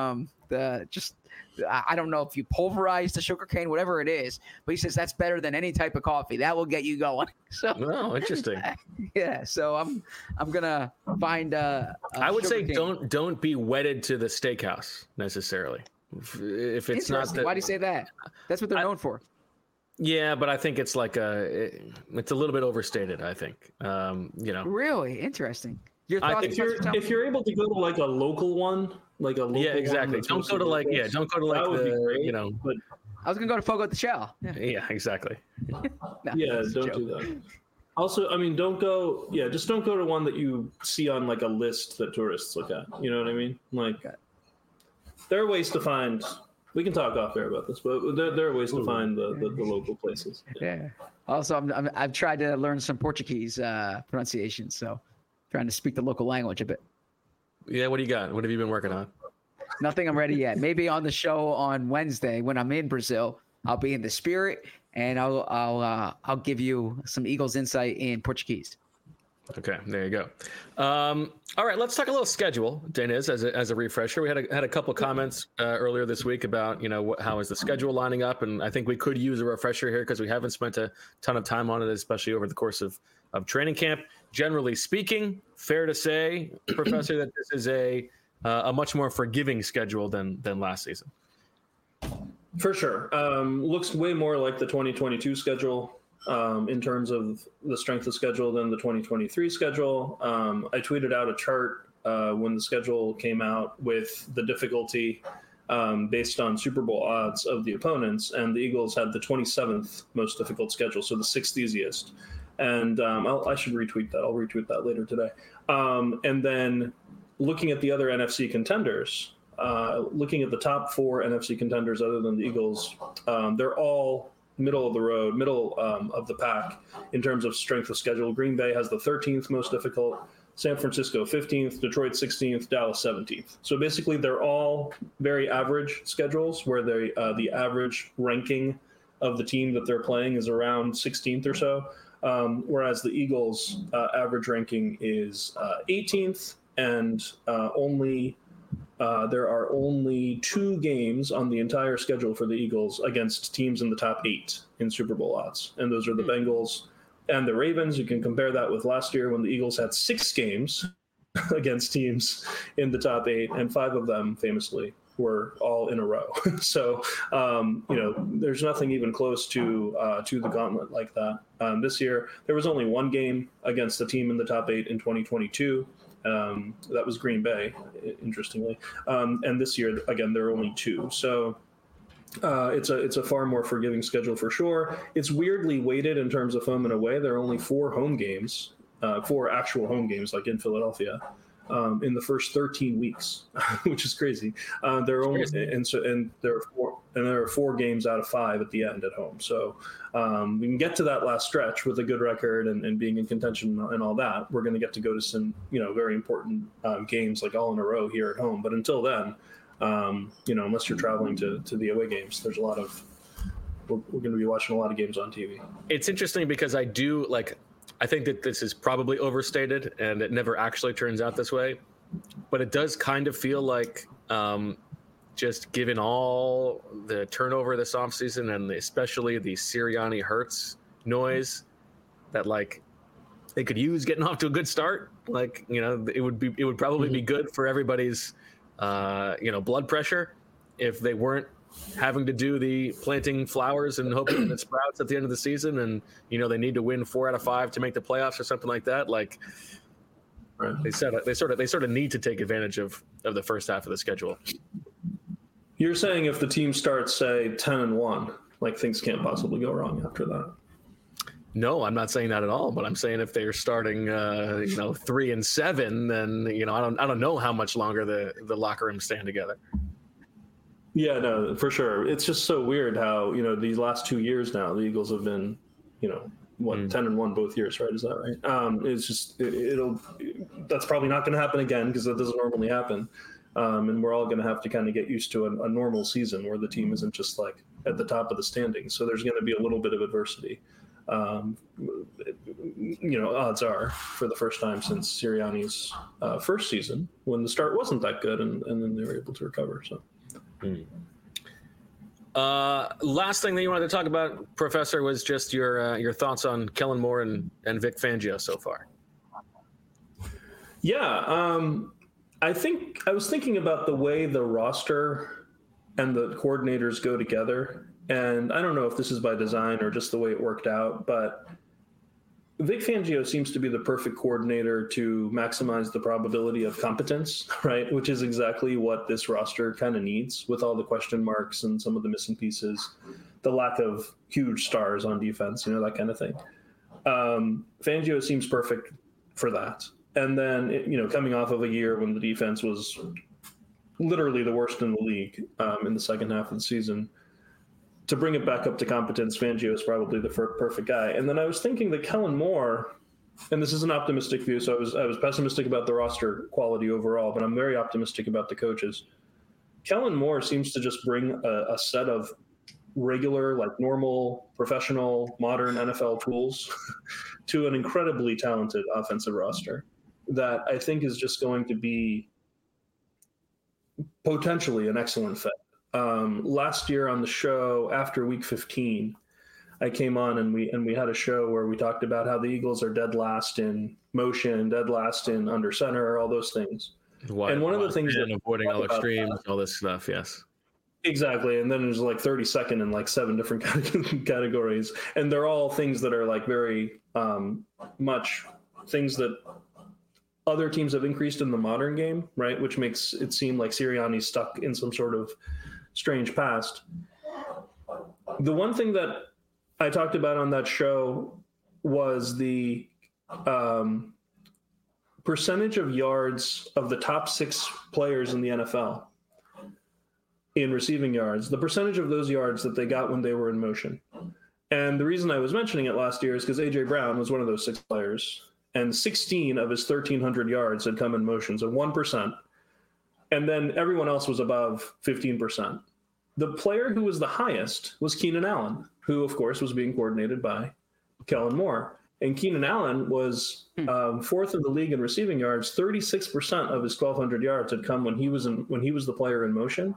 I don't know if you pulverize the sugarcane, whatever it is, but he says that's better than any type of coffee. That will get you going. So, oh, interesting. Yeah, so I'm gonna find. I would say don't be wedded to the steakhouse necessarily. If it's not, why do you say that? That's what they're known for. Yeah, but I think it's like it's a little bit overstated. I think, Really interesting. Your thoughts? If you're able to go to like a local one, yeah, exactly. Don't go to like the. But I was gonna go to Fogo de Chão. Yeah, exactly. No, yeah, don't do that. Also, I mean, don't go to one that you see on like a list that tourists look at. You know what I mean? Like, there are ways to find. We can talk off air about this, but there are ways to find the local places. Yeah. Also, I've tried to learn some Portuguese pronunciation, so trying to speak the local language a bit. Yeah, what do you got? What have you been working on? Nothing. I'm ready yet. Maybe on the show on Wednesday when I'm in Brazil, I'll be in the spirit and I'll give you some Eagles insight in Portuguese. Okay, there you go. All right, let's talk a little schedule, Deniz, as a refresher. We had a couple comments earlier this week about how is the schedule lining up, and I think we could use a refresher here because we haven't spent a ton of time on it, especially over the course of training camp. Generally speaking, fair to say, Professor, that this is a much more forgiving schedule than last season. For sure. Looks way more like the 2022 schedule. In terms of the strength of schedule than the 2023 schedule. I tweeted out a chart when the schedule came out with the difficulty based on Super Bowl odds of the opponents, and the Eagles had the 27th most difficult schedule, so the 6th easiest. And I should retweet that. I'll retweet that later today. And then looking at the other NFC contenders, looking at the top 4 NFC contenders other than the Eagles, they're all middle of the road, middle of the pack in terms of strength of schedule. Green Bay has the 13th most difficult, San Francisco 15th, Detroit 16th, Dallas 17th. So basically they're all very average schedules where the average ranking of the team that they're playing is around 16th or so, whereas the Eagles' average ranking is 18th, and there are only 2 games on the entire schedule for the Eagles against teams in the top 8 in Super Bowl odds. And those are the Bengals and the Ravens. You can compare that with last year when the Eagles had 6 games against teams in the top 8, and 5 of them famously were all in a row. So, there's nothing even close to the gauntlet like that. This year, there was only 1 game against a team in the top 8 in 2022. That was Green Bay, interestingly. And this year, again, there are only 2. So it's a far more forgiving schedule for sure. It's weirdly weighted in terms of home and away. There are only 4 home games, 4 actual home games, like in Philadelphia, in the first 13 weeks, which is crazy. There are 4 games out of 5 at the end at home. So we can get to that last stretch with a good record and being in contention and all that. Going to get to go to some very important games like all in a row here at home. But until then, unless you're traveling to the away games, there's a lot of we're going to be watching a lot of games on TV. It's interesting because I think that this is probably overstated and it never actually turns out this way, but it does kind of feel like just given all the turnover this offseason and especially the Sirianni Hurts noise that they could use getting off to a good start. It would probably be good for everybody's blood pressure if they weren't having to do the planting flowers and hoping that it sprouts at the end of the season, and they need to win 4 out of 5 to make the playoffs or something like that. Right. They sort of need to take advantage of the first half of the schedule. You're saying if the team starts, say, 10-1, things can't possibly go wrong after that? No, I'm not saying that at all. But I'm saying if they're starting, 3-7, then I don't know how much longer the locker room stand together. Yeah, no, for sure. It's just so weird how, these last 2 years now, the Eagles have been, 10-1 both years, right? Is that right? It's just, that's probably not going to happen again because that doesn't normally happen. And we're all going to have to kind of get used to a normal season where the team isn't just like at the top of the standings. So there's going to be a little bit of adversity. Odds are for the first time since Sirianni's first season when the start wasn't that good and then they were able to recover. So. Last thing that you wanted to talk about, Professor, was just your thoughts on Kellen Moore and Vic Fangio so far. Yeah, I think I was thinking about the way the roster and the coordinators go together, and I don't know if this is by design or just the way it worked out, but Vic Fangio seems to be the perfect coordinator to maximize the probability of competence, right? Which is exactly what this roster kind of needs with all the question marks and some of the missing pieces, the lack of huge stars on defense, that kind of thing. Fangio seems perfect for that. And then, coming off of a year when the defense was literally the worst in the league in the second half of the season, to bring it back up to competence, Fangio is probably the perfect guy. And then I was thinking that Kellen Moore, and this is an optimistic view, so I was pessimistic about the roster quality overall, but I'm very optimistic about the coaches. Kellen Moore seems to just bring a set of regular, like normal, professional, modern NFL tools to an incredibly talented offensive roster that I think is just going to be potentially an excellent fit. Last year on the show after week 15, I came on and we had a show where we talked about how the Eagles are dead last in motion, dead last in under center, all those things. And one of the things that avoiding all extremes, all this stuff. Yes, exactly. And then there's like 32nd in like 7 different categories. And they're all things that are like very much things that other teams have increased in the modern game, right? Which makes it seem like Sirianni's stuck in some sort of strange past. The one thing that I talked about on that show was the percentage of yards of the top 6 players in the NFL in receiving yards, the percentage of those yards that they got when they were in motion. And the reason I was mentioning it last year is because A.J. Brown was one of those 6 players, and 16 of his 1,300 yards had come in motion, so 1%. And then everyone else was above 15%. The player who was the highest was Keenan Allen, who, of course, was being coordinated by Kellen Moore. And Keenan Allen was 4th in the league in receiving yards. 36% of his 1,200 yards had come when he was the player in motion.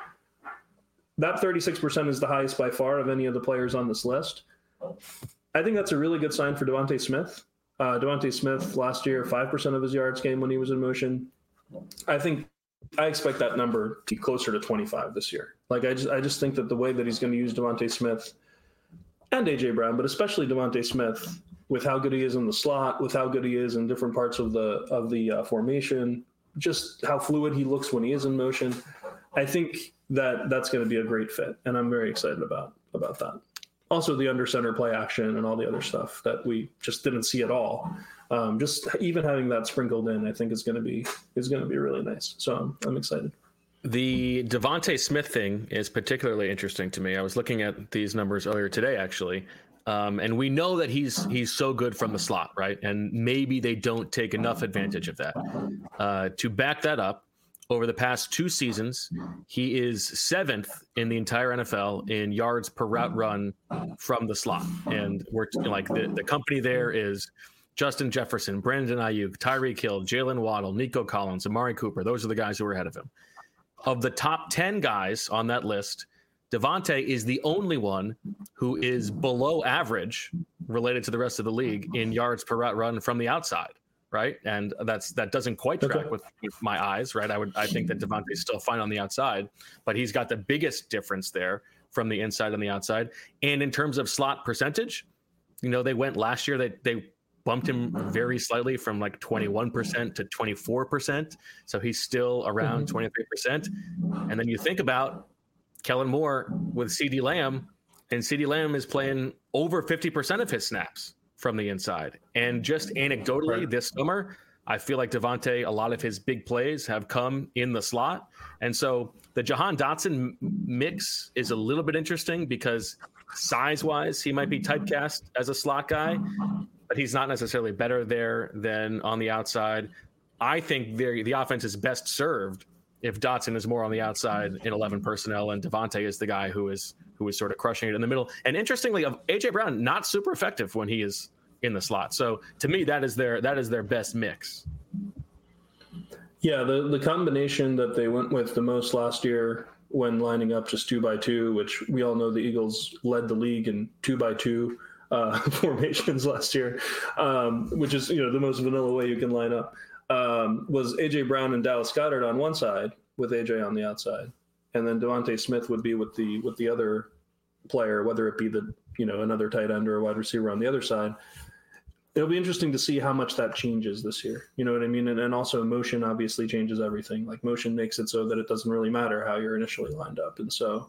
That 36% is the highest by far of any of the players on this list. I think that's a really good sign for Devontae Smith. Devontae Smith last year, 5% of his yards came when he was in motion. I expect that number to be closer to 25 this year. Like I just think that the way that he's going to use Devontae Smith and A.J. Brown, but especially Devontae Smith, with how good he is in the slot, with how good he is in different parts of the formation, just how fluid he looks when he is in motion, I think that's going to be a great fit, and I'm very excited about that. Also, the under center play action and all the other stuff that we just didn't see at all. Just even having that sprinkled in, I think is going to be really nice. So I'm excited. The Devontae Smith thing is particularly interesting to me. I was looking at these numbers earlier today, actually, and we know that he's so good from the slot, right? And maybe they don't take enough advantage of that. To back that up, over the past 2 seasons, he is 7th in the entire NFL in yards per route run from the slot. And we're like the company there is Justin Jefferson, Brandon Ayuk, Tyreek Hill, Jalen Waddle, Nico Collins, Amari Cooper. Those are the guys who are ahead of him. Of the top 10 guys on that list, Devontae is the only one who is below average related to the rest of the league in yards per route run from the outside. Right. And that doesn't quite track with my eyes. Right. I think that Devontae is still fine on the outside, but he's got the biggest difference there from the inside and the outside. And in terms of slot percentage, they went last year, they bumped him very slightly from like 21% to 24%. So he's still around 23%. And then you think about Kellen Moore with CeeDee Lamb, and CeeDee Lamb is playing over 50% of his snaps from the inside. And just anecdotally this summer, I feel like Davante, a lot of his big plays have come in the slot. And so the Jahan Dotson mix is a little bit interesting because size-wise, he might be typecast as a slot guy, but he's not necessarily better there than on the outside. I think the offense is best served if Dotson is more on the outside in 11 personnel and Davante is the guy who is sort of crushing it in the middle. And interestingly, A.J. Brown, not super effective when he is in the slot. So to me, that is their best mix. Yeah, the combination that they went with the most last year when lining up just 2x2, which we all know the Eagles led the league in 2x2 formations last year, which is the most vanilla way you can line up, was A.J. Brown and Dallas Goedert on one side with A.J. on the outside, and then Devontae Smith would be with the other player, whether it be another tight end or a wide receiver on the other side. It'll be interesting to see how much that changes this year. You know what I mean? And also motion obviously changes everything. Like motion makes it so that it doesn't really matter how you're initially lined up. And so,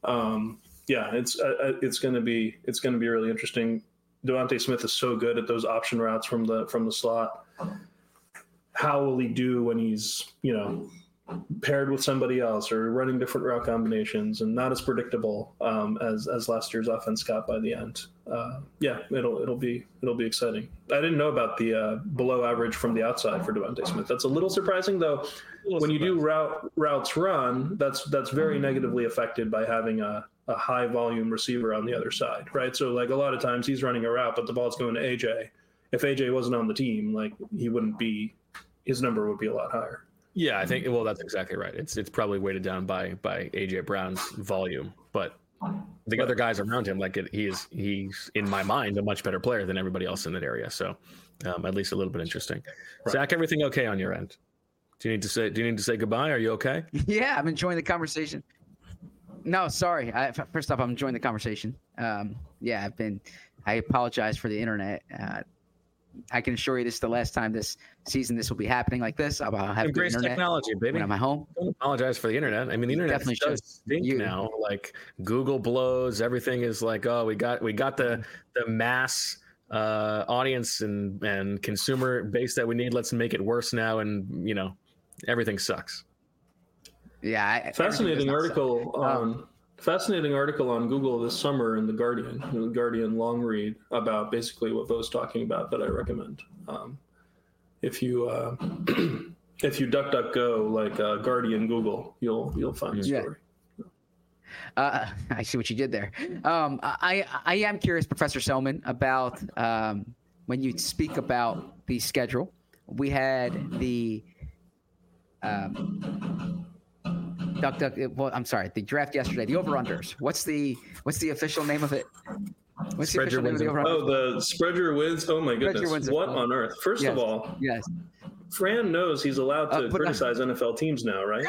it's going to be really interesting. Devontae Smith is so good at those option routes from the slot. How will he do when he's, paired with somebody else or running different route combinations and not as predictable as last year's offense got by the end? It'll be exciting. I didn't know about the below average from the outside for Devontae Smith. That's a little surprising, though. When you do routes run, that's very negatively affected by having a high volume receiver on the other side, right? So like a lot of times he's running a route, but the ball's going to AJ. If AJ wasn't on the team, like his number would be a lot higher. Yeah, I think. Well, that's exactly right. It's probably weighted down by AJ Brown's volume, but the other guys around him, he's in my mind a much better player than everybody else in that area. So, at least a little bit interesting. Right. Zach, everything okay on your end? Do you need to say goodbye? Are you okay? Yeah, I'm enjoying the conversation. No, sorry. First off, I'm enjoying the conversation. I apologize for the internet. I can assure you this is the last time this season this will be happening like this. I'll have good internet technology, baby. when I'm at home. Don't apologize for the internet. I mean, the internet definitely does stink now. Like Google blows. Everything is like, oh, we got the mass audience and consumer base that we need. Let's make it worse now, and everything sucks. Yeah, fascinating article. Fascinating article on Google this summer in the Guardian long read about basically what Bo's talking about that I recommend. If you DuckDuckGo like Guardian Google, you'll find the story. I see what you did there. I am curious, Professor Selman, about when you speak about the schedule. We had the the draft yesterday. The over-unders. What's the official name of it? What's the official name of the over-unders? The spread your wins. Oh my goodness! What on earth? First of all, yes. Fran knows he's allowed to criticize NFL teams now, right?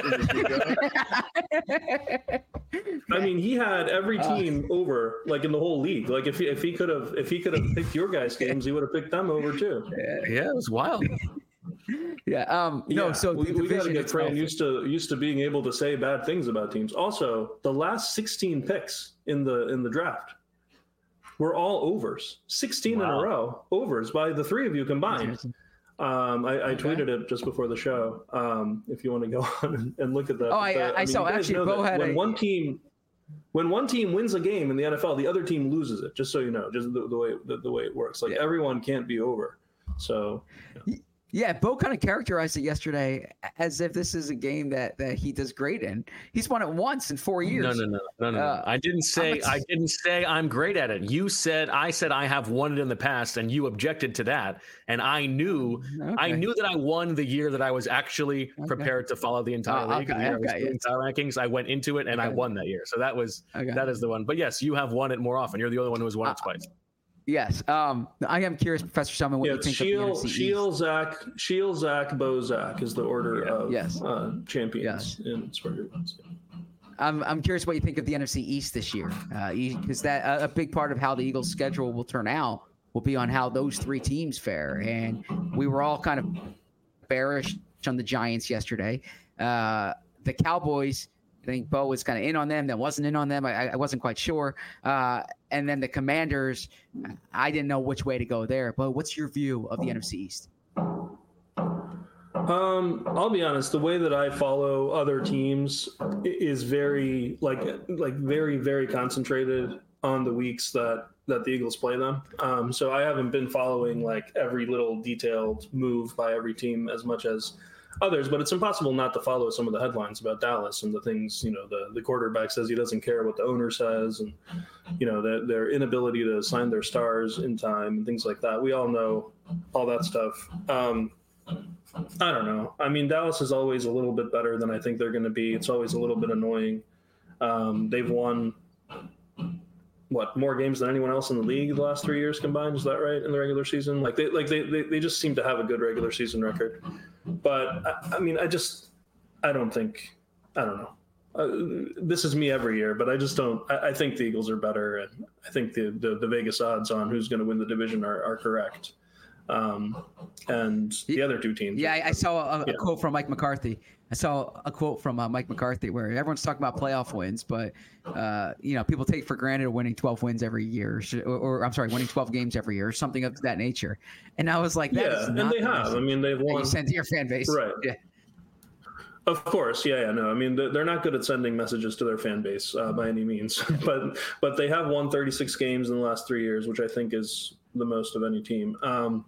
I mean, he had every team over, like in the whole league. Like if he could have picked your guys' games, he would have picked them over too. Yeah, it was wild. Yeah. So we got to get Fran used to being able to say bad things about teams. Also, the last 16 picks in the draft were all overs. 16 in a row, overs by the three of you combined. I tweeted it just before the show. If you want to go on and look at that. Oh, I saw. Actually, Bo had when one team wins a game in the NFL, the other team loses it. Just so you know, just the way it works. Like everyone can't be over. So. Yeah, Bo kind of characterized it yesterday as if this is a game that he does great in. He's won it once in 4 years. No. I didn't say I'm great at it. I said I have won it in the past, and you objected to that. And I knew that I won the year that I was actually prepared to follow the entire league. Entire rankings. I went into it and I won that year. So that is the one. But yes, you have won it more often. You're the only one who has won it twice. Yes. I am curious, Professor Selman, what you think of the NFC East. Shield, Zach, Bo, Zach is the order of champions in Spreader Wins. I'm curious what you think of the NFC East this year, because that a big part of how the Eagles' schedule will turn out will be on how those three teams fare. And we were all kind of bearish on the Giants yesterday. The Cowboys, I think Bo was kind of in on them, then wasn't in on them. I wasn't quite sure. And then the Commanders, I didn't know which way to go there. But what's your view of the NFC East? I'll be honest. The way that I follow other teams is very very, very concentrated on the weeks that the Eagles play them. So I haven't been following like every little detailed move by every team as much as others, but it's impossible not to follow some of the headlines about Dallas and the things, the quarterback says he doesn't care what the owner says, and, their inability to sign their stars in time and things like that. We all know all that stuff. I don't know. I mean, Dallas is always a little bit better than I think they're going to be. It's always a little bit annoying. They've won more games than anyone else in the league the last 3 years combined. Is that right? In the regular season, they just seem to have a good regular season record. But I mean, I don't know. This is me every year, but I just don't. I think the Eagles are better, and I think the Vegas odds on who's going to win the division are correct. And the other two teams. Yeah, I saw a quote from Mike McCarthy. Mike McCarthy where everyone's talking about playoff wins, but people take for granted winning 12 wins every year, or I'm sorry, winning 12 games every year, or something of that nature. And I was like, that is not and they have. I mean, they've won. You send to your fan base, right? Yeah. Of course, no. I mean, they're not good at sending messages to their fan base by any means, but they have won 36 games in the last 3 years, which I think is the most of any team.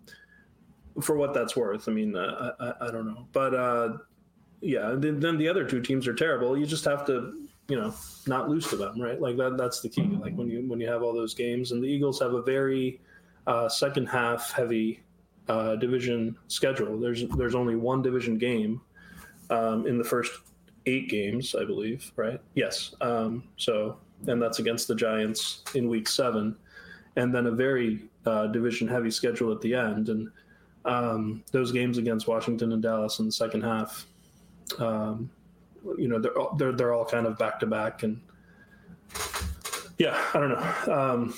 For what that's worth, I mean, I don't know, but then the other two teams are terrible. You just have to, not lose to them, right? Like that's the key. Like when you have all those games, and the Eagles have a very second half heavy division schedule. There's only one division game in the first 8 games, I believe, right? Yes. And that's against the Giants in week 7, and then a very division heavy schedule at the end. And those games against Washington and Dallas in the second half, they're all kind of back to back, and I don't know.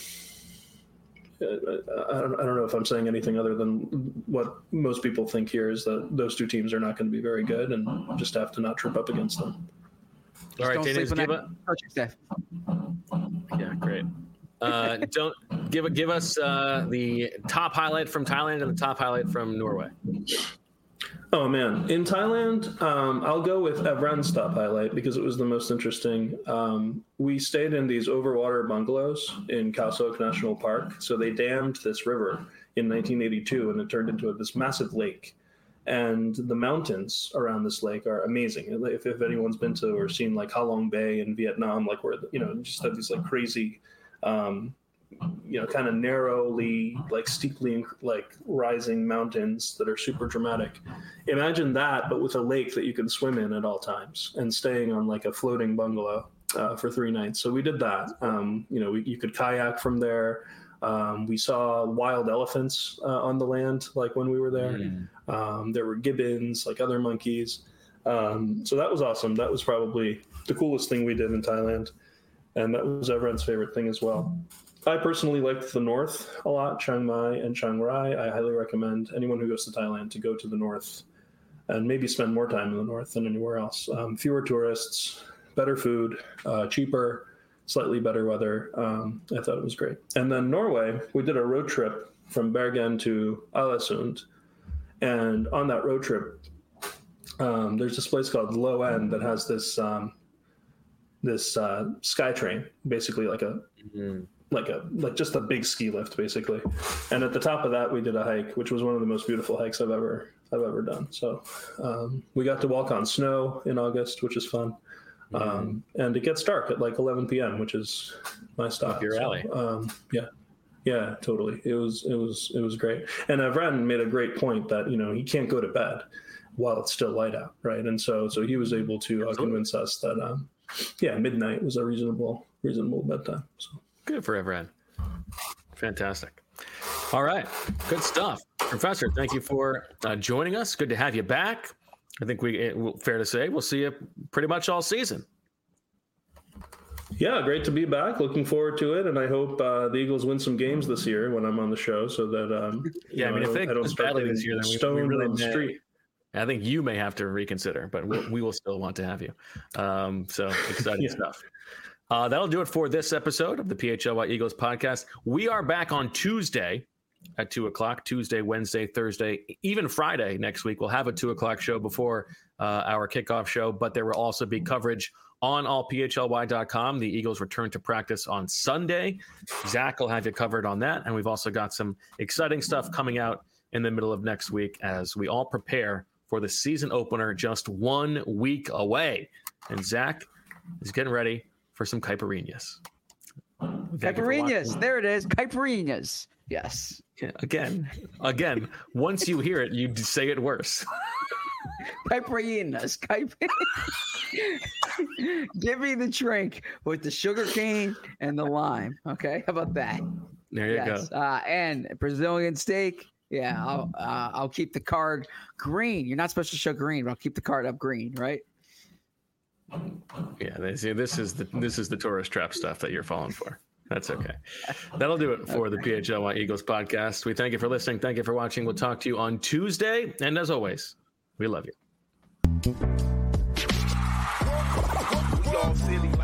I don't know if I'm saying anything other than what most people think here is that those two teams are not going to be very good, and just have to not trip up against them. All right, Dennis, yeah, great. Don't give us the top highlight from Thailand and the top highlight from Norway. Oh man, in Thailand, I'll go with Evren's top highlight because it was the most interesting. We stayed in these overwater bungalows in Khao Sok National Park. So they dammed this river in 1982, and it turned into this massive lake. And the mountains around this lake are amazing. If anyone's been to or seen like Ha Long Bay in Vietnam, like where just have these like crazy. Kind of narrowly, like steeply, like rising mountains that are super dramatic. Imagine that, but with a lake that you can swim in at all times, and staying on like a floating bungalow for 3 nights. So we did that. You could kayak from there. We saw wild elephants on the land, like when we were there. There were gibbons, like other monkeys. So that was awesome. That was probably the coolest thing we did in Thailand. And that was everyone's favorite thing as well. I personally liked the north a lot, Chiang Mai and Chiang Rai. I highly recommend anyone who goes to Thailand to go to the north and maybe spend more time in the north than anywhere else. Fewer tourists, better food, cheaper, slightly better weather. I thought it was great. And then Norway, we did a road trip from Bergen to Alesund. And on that road trip, there's this place called Low End that has this sky train, basically like just a big ski lift, basically. And at the top of that, we did a hike, which was one of the most beautiful hikes I've ever done. So we got to walk on snow in August, which is fun. And it gets dark at like 11 p.m., which is my style. Up your alley. Yeah, totally. It was great. And Evren made a great point that he can't go to bed while it's still light out, right? And so he was able to convince us that midnight was a reasonable bedtime. So. Good for Evren. Fantastic. All right. Good stuff. Professor, thank you for joining us. Good to have you back. I think fair to say we'll see you pretty much all season. Yeah, great to be back. Looking forward to it. And I hope the Eagles win some games this year when I'm on the show so that if they don't start badly this year, then we really on the street. I think you may have to reconsider, but we will still want to have you. So exciting stuff. That'll do it for this episode of the PHLY Eagles podcast. We are back on Tuesday at 2 o'clock, Tuesday, Wednesday, Thursday, even Friday next week. We'll have a 2 o'clock show before our kickoff show, but there will also be coverage on allphly.com. The Eagles return to practice on Sunday. Zach will have you covered on that. And we've also got some exciting stuff coming out in the middle of next week as we all prepare for the season opener just 1 week away. And Zach is getting ready for some caipirinhas. Caipirinhas. There it is. Caipirinhas. Yes. Yeah, again, once you hear it, you say it worse. Caipirinhas. Give me the drink with the sugar cane and the lime. Okay, how about that? There you go. And Brazilian steak. Yeah, I'll keep the card green. You're not supposed to show green, but I'll keep the card up green, right? Yeah, this is the tourist trap stuff that you're falling for. That's okay. That'll do it for the PHLY Eagles podcast. We thank you for listening. Thank you for watching. We'll talk to you on Tuesday. And as always, we love you.